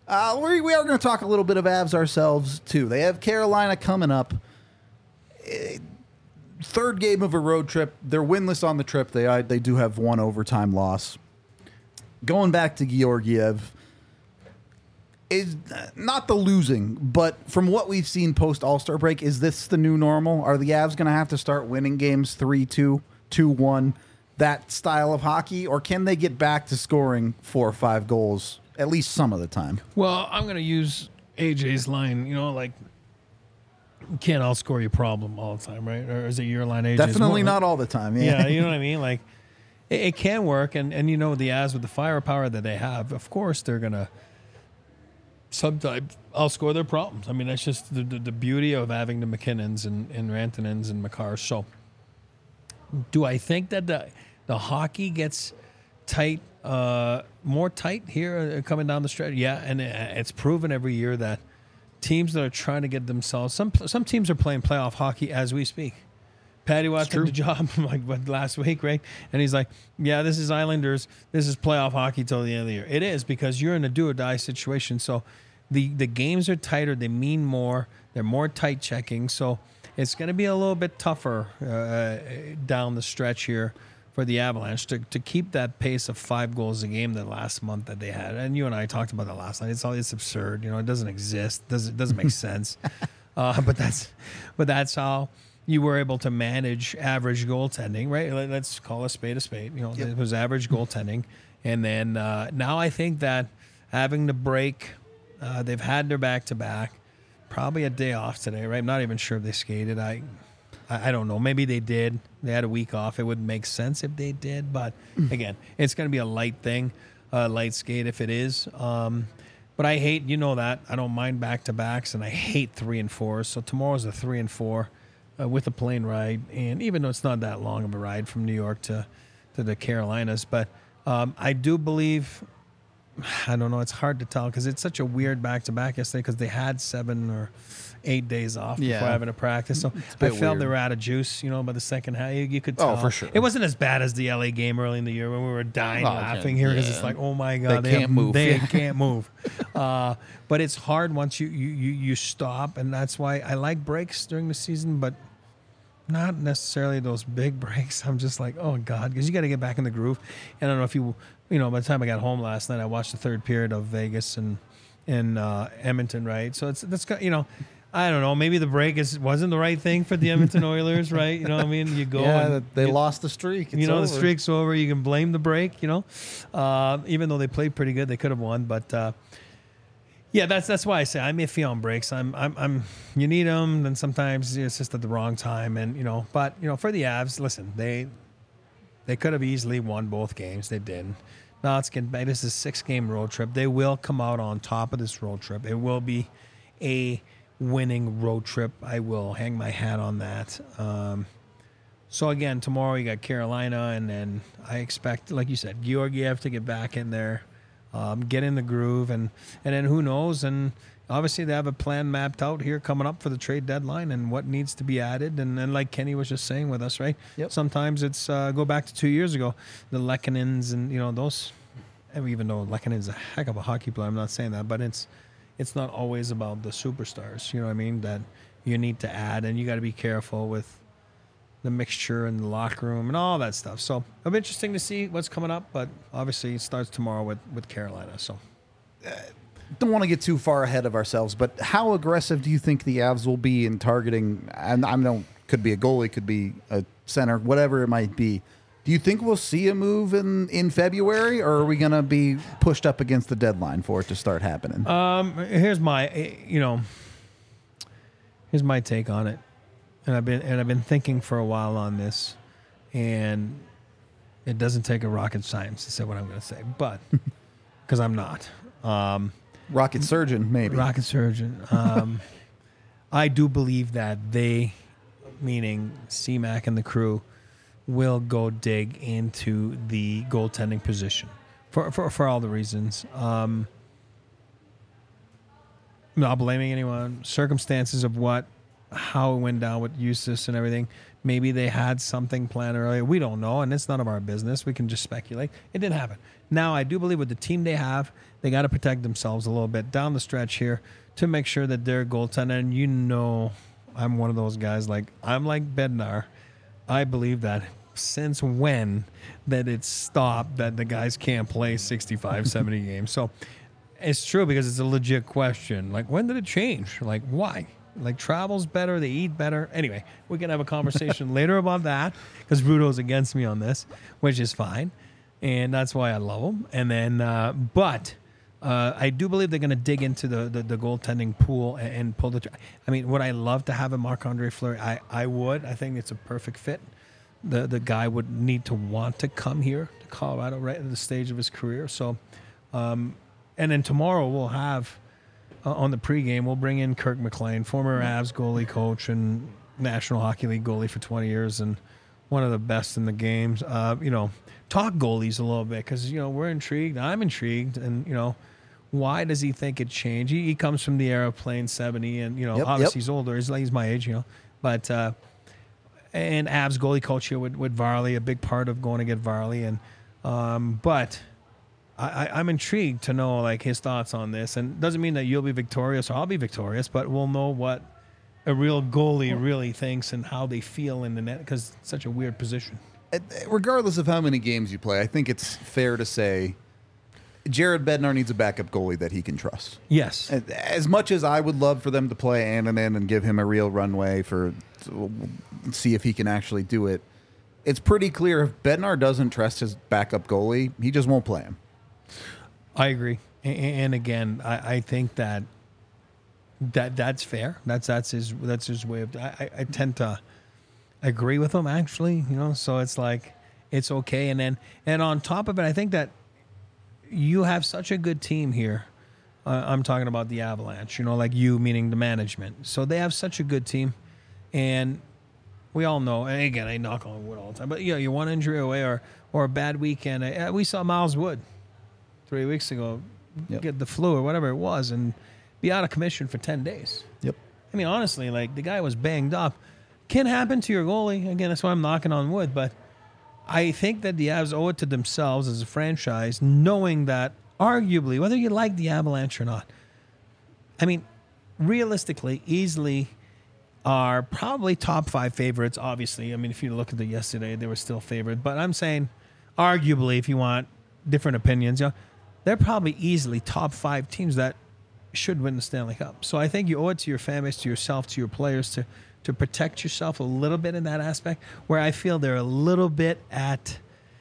Uh, we, we are going to talk a little bit of Avs ourselves, too. They have Carolina coming up. Eh, third game of a road trip. They're winless on the trip. They uh, they do have one overtime loss. Going back to Georgiev, is not the losing, but from what we've seen post All-Star break, is this the new normal? Are the Avs going to have to start winning games three two, two one, that style of hockey, or can they get back to scoring four or five goals at least some of the time? Well, I'm going to use A J's line, you know, like, you can't outscore your problem all the time, right? Or is it your line, A J's? Definitely not all the time, yeah. Yeah, you know what I mean? Like, it, it can work, and, and you know, the Avs with the firepower that they have, of course they're going to sometimes outscore their problems. I mean, that's just the, the, the beauty of having the McKinnons and, and Rantanens and Makars. So, do I think that the the hockey gets tight, uh, more tight here uh, coming down the stretch? Yeah, and it, it's proven every year that teams that are trying to get themselves, some some teams are playing playoff hockey as we speak. Patty Watt took the job like what, last week, right? And he's like, yeah, this is Islanders. This is playoff hockey till the end of the year. It is, because you're in a do-or-die situation. So the, the games are tighter. They mean more. They're more tight checking. So it's going to be a little bit tougher uh, down the stretch here for the Avalanche to, to keep that pace of five goals a game the last month that they had. And you and I talked about that last night. It's all it's absurd. You know, it doesn't exist. Doesn't doesn't make sense. Uh, but that's but that's how you were able to manage average goaltending, right? Let's call a spade a spade. You know, yep. It was average goaltending, and then uh, now I think that having the break, uh, they've had their back to back. Probably a day off today, right? I'm not even sure if they skated. I, I, I don't know. Maybe they did. They had a week off. It wouldn't make sense if they did, but again, it's going to be a light thing, a light skate if it is. Um, but I hate, you know that I don't mind back to backs, and I hate three and fours. So tomorrow's a three and four. Uh, with a plane ride, and even though it's not that long of a ride from New York to, to the Carolinas, but um, I do believe, I don't know, it's hard to tell because it's such a weird back-to-back yesterday because they had seven or eight days off yeah. before having a practice, so I felt weird. They were out of juice, you know, by the second half. You, you could tell. Oh, for sure. It wasn't as bad as the L A game early in the year when we were dying oh, laughing yeah. here because yeah. it's like, oh my God, they, they can't have, move. They can't move. Uh, but it's hard once you, you, you, you stop, and that's why I like breaks during the season, but not necessarily those big breaks. I'm just like, oh God, because you got to get back in the groove. And I don't know if you, you know, by the time I got home last night, I watched the third period of Vegas and and uh, Edmonton, right? So it's that's you know, I don't know. Maybe the break is wasn't the right thing for the Edmonton Oilers, right? You know what I mean? You go, yeah, and they you, lost the streak. It's you know, over. the streak's over. You can blame the break. You know, uh, even though they played pretty good, they could have won, but. Uh, Yeah, that's that's why I say I'm iffy on breaks. I'm I'm I'm you need them, then sometimes it's just at the wrong time, and you know. But you know, for the Avs, listen, they they could have easily won both games. They didn't. Now it's getting back. This is a six-game road trip. They will come out on top of this road trip. It will be a winning road trip. I will hang my hat on that. Um, so again, tomorrow you got Carolina, and then I expect, like you said, Georgiev to get back in there. Um, get in the groove, and, and then who knows? And obviously they have a plan mapped out here coming up for the trade deadline and what needs to be added. And then, like Kenny was just saying with us, right? Yep. Sometimes it's uh, go back to two years ago, the Lekkonens and you know those. Even though Lekkonen's a heck of a hockey player, I'm not saying that, but it's it's not always about the superstars. You know what I mean? That you need to add, and you got to be careful with the mixture in the locker room and all that stuff. So it'll be interesting to see what's coming up, but obviously it starts tomorrow with, with Carolina. So don't want to get too far ahead of ourselves, but how aggressive do you think the Avs will be in targeting? And I know could be a goalie, could be a center, whatever it might be. Do you think we'll see a move in, in February, or are we going to be pushed up against the deadline for it to start happening? Um, here's my, you know, here's my take on it. And I've been and I've been thinking for a while on this, and it doesn't take a rocket science to say what I'm going to say, but because I'm not um, rocket surgeon, maybe rocket surgeon. Um, I do believe that they, meaning C-Mac and the crew, will go dig into the goaltending position for for, for all the reasons. Um, not blaming anyone. Circumstances of what. how it went down with Eustace and everything. Maybe they had something planned earlier. We don't know, and it's none of our business. We can just speculate. It didn't happen. Now, I do believe with the team they have, they got to protect themselves a little bit down the stretch here to make sure that their goaltender, and you know I'm one of those guys, like I'm like Bednar. I believe that since when that it's stopped that the guys can't play sixty-five, seventy games. So it's true because it's a legit question. Like, when did it change? Like, why? Like, travel's better, they eat better. Anyway, we can have a conversation later about that because Rudo's against me on this, which is fine. And that's why I love him. And then, uh, but uh, I do believe they're going to dig into the, the, the goaltending pool and, and pull the. Tra- I mean, would I love to have a Marc-Andre Fleury? I, I would. I think it's a perfect fit. The the guy would need to want to come here to Colorado right at the stage of his career. So, um, and then tomorrow we'll have uh, on the pregame we'll bring in Kirk McLean, former Avs goalie coach and National Hockey League goalie for twenty years, and one of the best in the games. Uh, you know, talk goalies a little bit because you know we're intrigued. I'm intrigued, and you know, why does he think it changed? He, he comes from the era of playing seventy, and you know, Yep, obviously yep. he's older. He's like he's my age, you know, but. Uh, And Avs goalie coach here with, with Varley, a big part of going to get Varley. And um, but I, I, I'm intrigued to know like his thoughts on this. And doesn't mean that you'll be victorious or I'll be victorious, but we'll know what a real goalie really thinks and how they feel in the net because it's such a weird position. Regardless of how many games you play, I think it's fair to say Jared Bednar needs a backup goalie that he can trust. Yes. As much as I would love for them to play Annunen and give him a real runway for see if he can actually do it, it's pretty clear if Bednar doesn't trust his backup goalie, he just won't play him. I agree. And again, I, I think that that that's fair. That's that's his that's his way of. I, I tend to agree with him actually. You know, so it's like it's okay. And then and on top of it, I think that you have such a good team here. Uh, I'm talking about the Avalanche. You know, like you meaning the management. So they have such a good team, and we all know. And again, I knock on wood all the time, but you know, you're one injury away or or a bad weekend. Uh, we saw Miles Wood three weeks ago Yep. get the flu or whatever it was and be out of commission for ten days. Yep. I mean, honestly, like the guy was banged up. Can happen to your goalie. Again, that's why I'm knocking on wood. But I think that the Avs owe it to themselves as a franchise, knowing that arguably, whether you like the Avalanche or not, I mean, realistically, easily are probably top five favorites, obviously. I mean, if you look at the yesterday, they were still favored. But I'm saying, arguably, if you want different opinions, you know, they're probably easily top five teams that should win the Stanley Cup. So I think you owe it to your fan base, to yourself, to your players to to protect yourself a little bit in that aspect where I feel they're a little bit at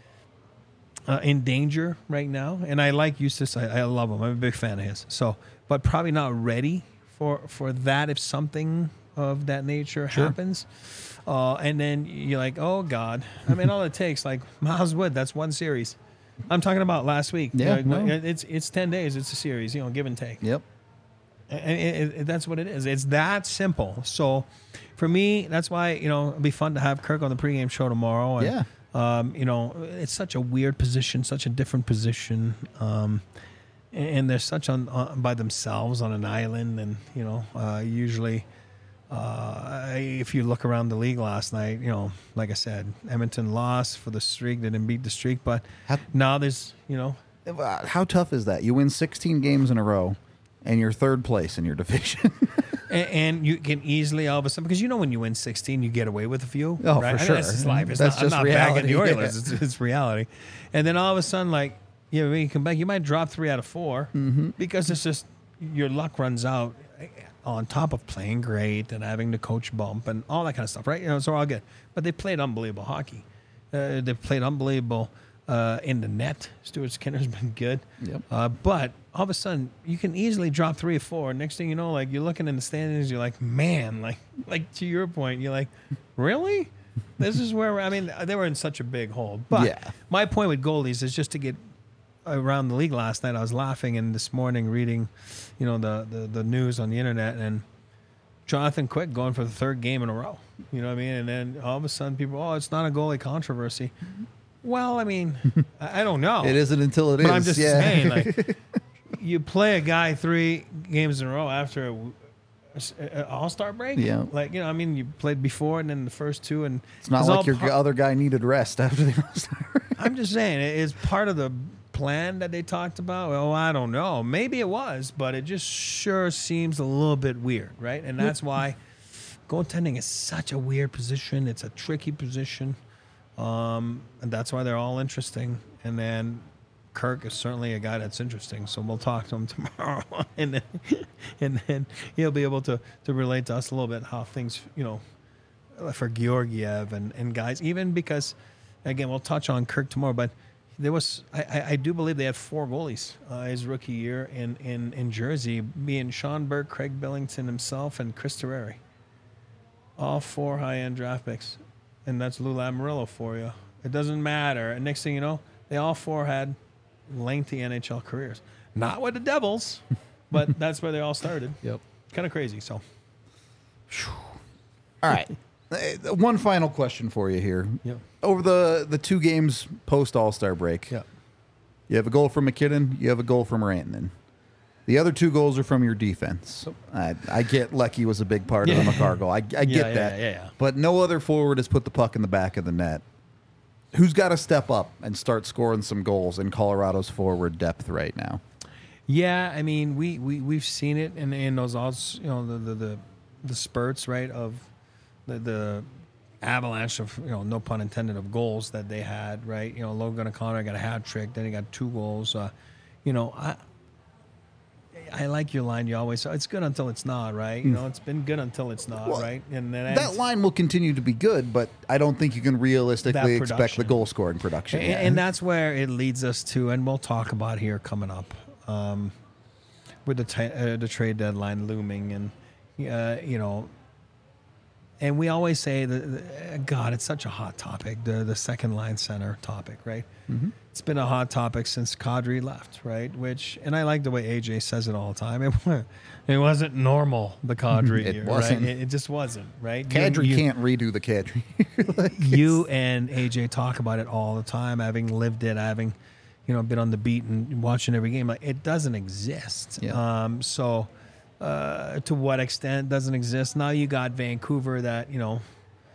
uh, in danger right now. And I like Eustace. I, I love him. I'm a big fan of his. So, but probably not ready for, for that if something of that nature Sure. happens. Uh, and then you're like, oh, God. I mean, all it takes, like Miles Wood, that's one series. I'm talking about last week. Yeah, You know, no. it's it's ten days. It's a series, you know, give and take. Yep. And it, it, that's what it is. It's that simple. So for me, that's why, you know, it'll be fun to have Kirk on the pregame show tomorrow. And, Yeah. Um, you know, it's such a weird position, such a different position. Um, and they're such on, on by themselves on an island. And, you know, uh, usually uh, if you look around the league last night, you know, like I said, Edmonton lost for the streak. They didn't beat the streak. But How- now there's, you know, Uh, How tough is that? You win sixteen games in a row, and you're third place in your division. And, and you can easily all of a sudden, because you know when you win sixteen, you get away with a few. Oh, right? for I mean, sure. That's just life. It's That's not, just I'm not bagging the reality, Oilers. yeah. It's, it's reality. And then all of a sudden, like, yeah, when you come back, you might drop three out of four Mm-hmm. because it's just your luck runs out on top of playing great and having the coach bump and all that kind of stuff, right? You know, it's all good. But they played unbelievable hockey. Uh, they played unbelievable uh, in the net. Stuart Skinner's been good. Yep. Uh, but all of a sudden, you can easily drop three or four. Next thing you know, like you're looking in the standings, you're like, man, like, like to your point, you're like, really? This is where we're, I mean, they were in such a big hole. But Yeah. my point with goalies is just to get around the league last night. I was laughing and this morning reading, you know, the, the, the news on the internet and Jonathan Quick going for the third game in a row. You know what I mean? And then all of a sudden people, oh, it's not a goalie controversy. Well, I mean, I I don't know. It isn't until it is. But I'm just yeah. saying, like, you play a guy three games in a row after a, All Star break. Yeah. Like you know, I mean, you played before, and then the first two, and It's not it's like all your par- other guy needed rest after the All-Star. I'm just saying, it is part of the plan that they talked about. Well, I don't know. Maybe it was, but it just sure seems a little bit weird, right? And that's why goaltending is such a weird position. It's a tricky position, um, and that's why they're all interesting. And then Kirk is certainly a guy that's interesting, so we'll talk to him tomorrow, and then and then he'll be able to to relate to us a little bit how things, you know, for Georgiev and and guys, even because, again, we'll touch on Kirk tomorrow, but there was I, I, I do believe they had four goalies uh, his rookie year in, in in Jersey, being Sean Burke, Craig Billington himself, and Chris Terreri, all four high end draft picks, and that's Lou Lamoriello for you. It doesn't matter. And next thing you know, they all four had lengthy N H L careers. Not with the Devils, but that's where they all started. Yep. Kind of crazy. So, All right. Uh, One final question for you here. Yep. Over the, the two games post All-Star break, yeah. you have a goal from McKinnon, you have a goal from Rantanen. The other two goals are from your defense. I, I get Lecky was a big part of Yeah. the McCarr goal. I, I get Yeah, that. yeah, yeah. But no other forward has put the puck in the back of the net. Who's got to step up and start scoring some goals in Colorado's forward depth right now? Yeah, I mean, we, we, we've seen it in, in those odds, you know, the, the, the, the spurts, right, of the, the avalanche of, you know, no pun intended, of goals that they had, right? You know, Logan O'Connor got a hat trick, then he got two goals. Uh, you know, I I like your line. You always say, it's good until it's not, right? You know, it's been good until it's not, Well, right? And then That line will continue to be good, but I don't think you can realistically That expect the production. goal scoring production. And, Yeah. and that's where it leads us to, and we'll talk about here coming up, um, with the t- uh, the trade deadline looming, and uh, you know, and we always say that, God, it's such a hot topic, the the second line center topic, right? Mm-hmm. It's been a hot topic since Kadri left, right? Which, and I like the way A J says it all the time. It, wa- it wasn't normal, the Kadri It year, wasn't. right? It, it just wasn't, right? You- Kadri you- can't redo the Kadri. Like, you and A J talk about it all the time, having lived it, having, you know, been on the beat and watching every game. Like, it doesn't exist. Yeah. Um, so, uh, to what extent doesn't exist? Now you got Vancouver that, you know,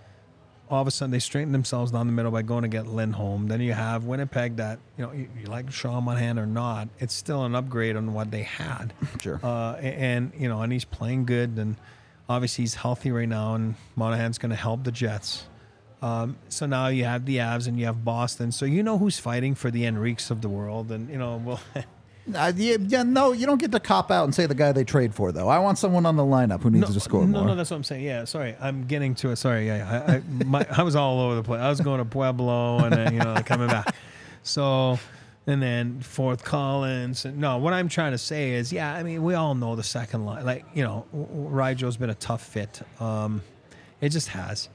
all of a sudden they straighten themselves down the middle by going to get Lindholm. Then you have Winnipeg that, you know, you, you like Sean Monahan or not, it's still an upgrade on what they had. Sure. Uh, and, you know, and he's playing good, and obviously he's healthy right now, and Monahan's going to help the Jets. Um, so now you have the Avs and you have Boston. So you know who's fighting for the Enriques of the world, and you know, well, Uh, yeah, yeah, no, you don't get to cop out and say the guy they trade for, though. I want someone on the lineup who needs to score no, more. no, that's what I'm saying. Yeah, sorry, I'm getting to it. Sorry, yeah, I, I, my, I was all over the place. I was going to Pueblo and then you know coming back. So, and then fourth Collins. And, no, what I'm trying to say is, yeah, I mean, we all know the second line. Like you know, Ryjo's been a tough fit. Um, it just has.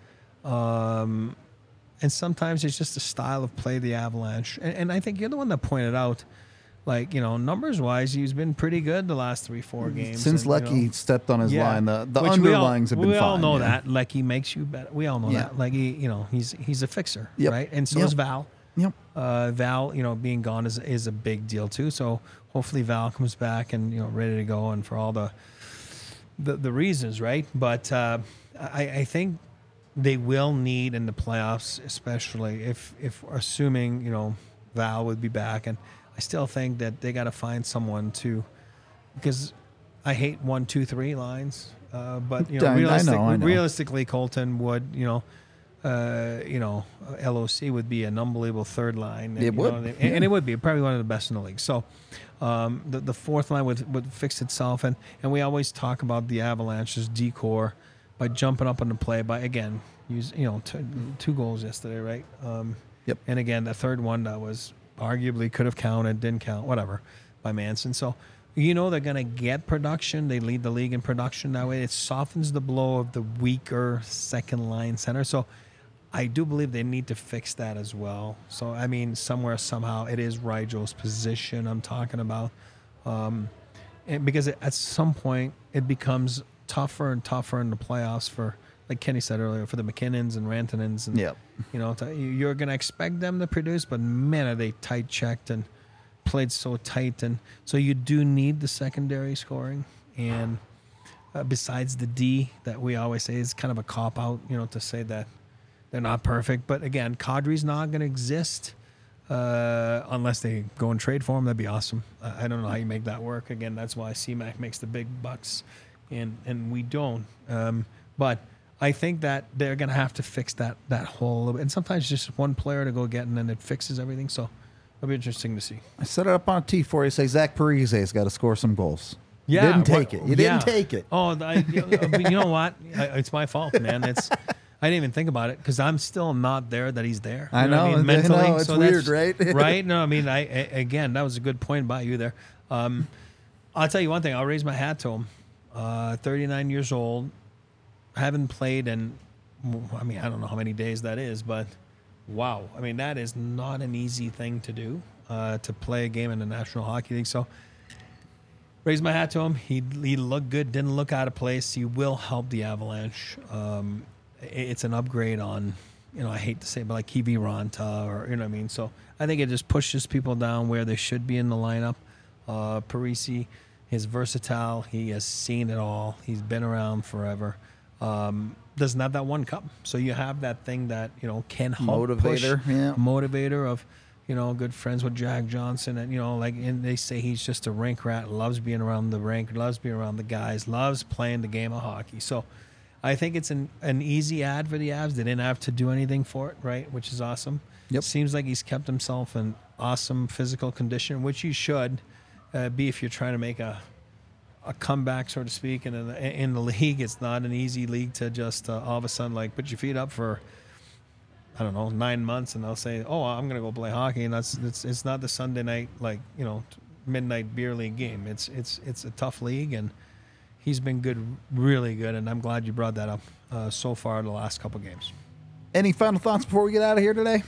Um, and sometimes it's just the style of play, the Avalanche. And, and I think you're the one that pointed out, like, you know, numbers wise, he's been pretty good the last three, four games. Since and, Lecky you know, stepped on his yeah. line, the, the Which we all- underlings have been we fine. all know yeah. that. Lecky makes you better. We all know Yeah. that. Like, he, you know, he's he's a fixer, Yep. right? And so Yep. is Val. Yep. Uh, Val, you know, being gone is is a big deal too. So hopefully Val comes back and you know ready to go, and for all the the, the reasons, right? But uh, I, I think they will need in the playoffs, especially if if assuming you know Val would be back, and I still think that they got to find someone to, because I hate one, two, three lines. Uh, but you know, I- I know, realistic, I know. realistically, Colton would, you know, uh, you know, L O C would be an unbelievable third line. And, It you would, know, they- yeah. and it would be probably one of the best in the league. So um, the the fourth line would would fix itself, and and we always talk about the Avalanche's decor by jumping up on the play by again use you know t- two goals yesterday, right? Um, Yep. And again, the third one that was arguably could have counted, didn't count, whatever, by Manson. So, you know, they're going to get production. They lead the league in production that way. It softens the blow of the weaker second line center. So, I do believe they need to fix that as well. So, I mean, somewhere, somehow, it is Ryjo's position I'm talking about. Um, and because it, at some point, it becomes tougher and tougher in the playoffs for, like Kenny said earlier, for the McKinnons and Rantanens. And, Yep. you know, to, you're going to expect them to produce, but man, are they tight checked and played so tight. And so you do need the secondary scoring. And uh, besides the D that we always say is kind of a cop out, you know, to say that they're not perfect. But again, Kadri's not going to exist uh, unless they go and trade for him. That'd be awesome. Uh, I don't know how you make that work. Again, that's why C-Mac makes the big bucks, and and we don't. Um, but I think that they're going to have to fix that that whole. And sometimes just one player to go get, and then it fixes everything. So it'll be interesting to see. I set it up on a tee for you. Say Zach Parise's got to score some goals. Yeah, you didn't take what, it. You yeah. didn't take it. Oh, I, you, know, you know what? I, it's my fault, man. It's I didn't even think about it because I'm still not there. That he's there. You I know. What I mean? Mentally, I know. It's so weird, that's- right? right? No, I mean, I, I again, that was a good point by you there. Um, I'll tell you one thing. I'll raise my hat to him. Uh, thirty-nine years old, haven't played in. I mean, I don't know how many days that is, but wow. I mean, that is not an easy thing to do uh, to play a game in the National Hockey League. So. Raise my hat to him. He he looked good. Didn't look out of place. He will help the Avalanche. Um, it's an upgrade on, you know, I hate to say it, but like Kivi Ranta or, you know what I mean? So I think it just pushes people down where they should be in the lineup. Uh, Parise is versatile. He has seen it all. He's been around forever. Um, doesn't have that one cup. So you have that thing that, you know, can help Motivator, push, yeah. motivator of, you know, good friends with Jack Johnson, and you know, like, and they say he's just a rink rat, loves being around the rink, loves being around the guys, loves playing the game of hockey. So, I think it's an an easy ad for the Avs. They didn't have to do anything for it, right? Which is awesome. Yep. Seems like he's kept himself in awesome physical condition, which you should uh, be if you're trying to make a a comeback, so to speak. And in the, in the league, it's not an easy league to just uh, all of a sudden like put your feet up for. I don't know, nine months, and they'll say, "Oh, I'm going to go play hockey," and that's it's it's not the Sunday night like you know midnight beer league game. It's it's it's a tough league, and he's been good, really good, and I'm glad you brought that up uh, so far in the last couple games. Any final thoughts before we get out of here today?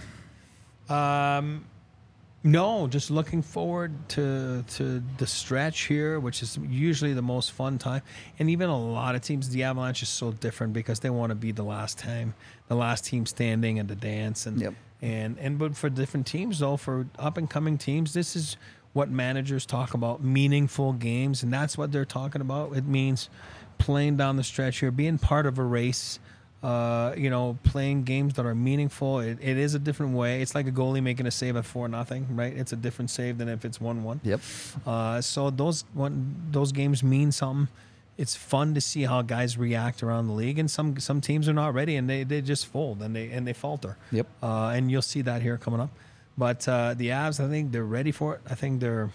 Um, no, just looking forward to to the stretch here, which is usually the most fun time. And even a lot of teams, the Avalanche is so different because they want to be the last time, the last team standing in the dance. And Yep. and and but for different teams, though, for up and coming teams, this is what managers talk about: meaningful games, and that's what they're talking about. It means playing down the stretch here, being part of a race. Uh, you know, playing games that are meaningful. It, it is a different way. It's like a goalie making a save at four nothing, right? It's a different save than if it's one one. Yep. Uh, so those one those games mean something. It's fun to see how guys react around the league, and some some teams are not ready and they, they just fold and they and they falter. Yep. Uh, and you'll see that here coming up. But uh, the Avs, I think they're ready for it. I think they're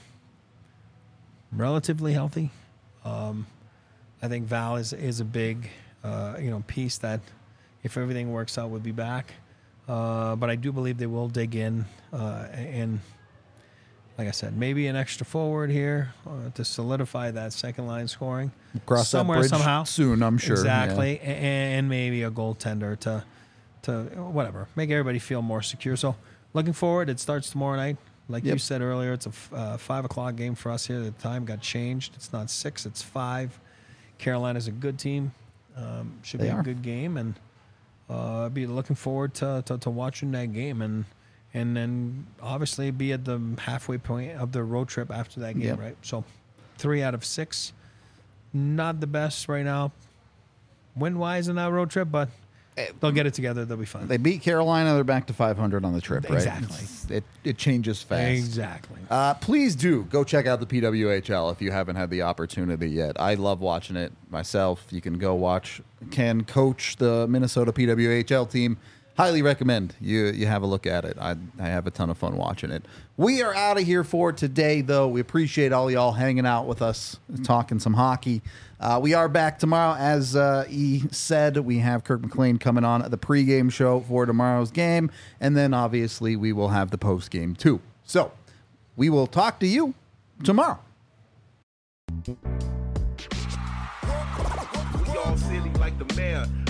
relatively healthy. Um, I think Val is is a big uh, you know piece that. If everything works out, we'll be back. Uh, but I do believe they will dig in. Uh, and like I said, maybe an extra forward here uh, to solidify that second line scoring. Cross somewhere, that bridge somehow. soon, I'm sure. Exactly. Yeah. A- And maybe a goaltender to, to whatever, make everybody feel more secure. So looking forward, it starts tomorrow night. Like Yep. you said earlier, it's a f- uh, five o'clock game for us here. The time got changed. It's not six, it's five. Carolina's a good team. Um, should They be are. a good game. And Uh, be looking forward to, to, to watching that game and and then obviously be at the halfway point of the road trip after that game, Yep. right? So three out of six, not the best right now, win wise in that road trip, but they'll get it together. They'll be fine. They beat Carolina. They're back to five hundred on the trip, right? Exactly. It's- It, it changes fast. Exactly. Uh, please do go check out the P W H L if you haven't had the opportunity yet. I love watching it myself. You can go watch Ken coach the Minnesota P W H L team. Highly recommend you you have a look at it. I, I have a ton of fun watching it. We are out of here for today, though. We appreciate all y'all hanging out with us, talking some hockey. Uh, we are back tomorrow. As uh, E said, we have Kirk McLean coming on the pregame show for tomorrow's game. And then, obviously, we will have the postgame, too. So, we will talk to you tomorrow. We all silly like the mayor.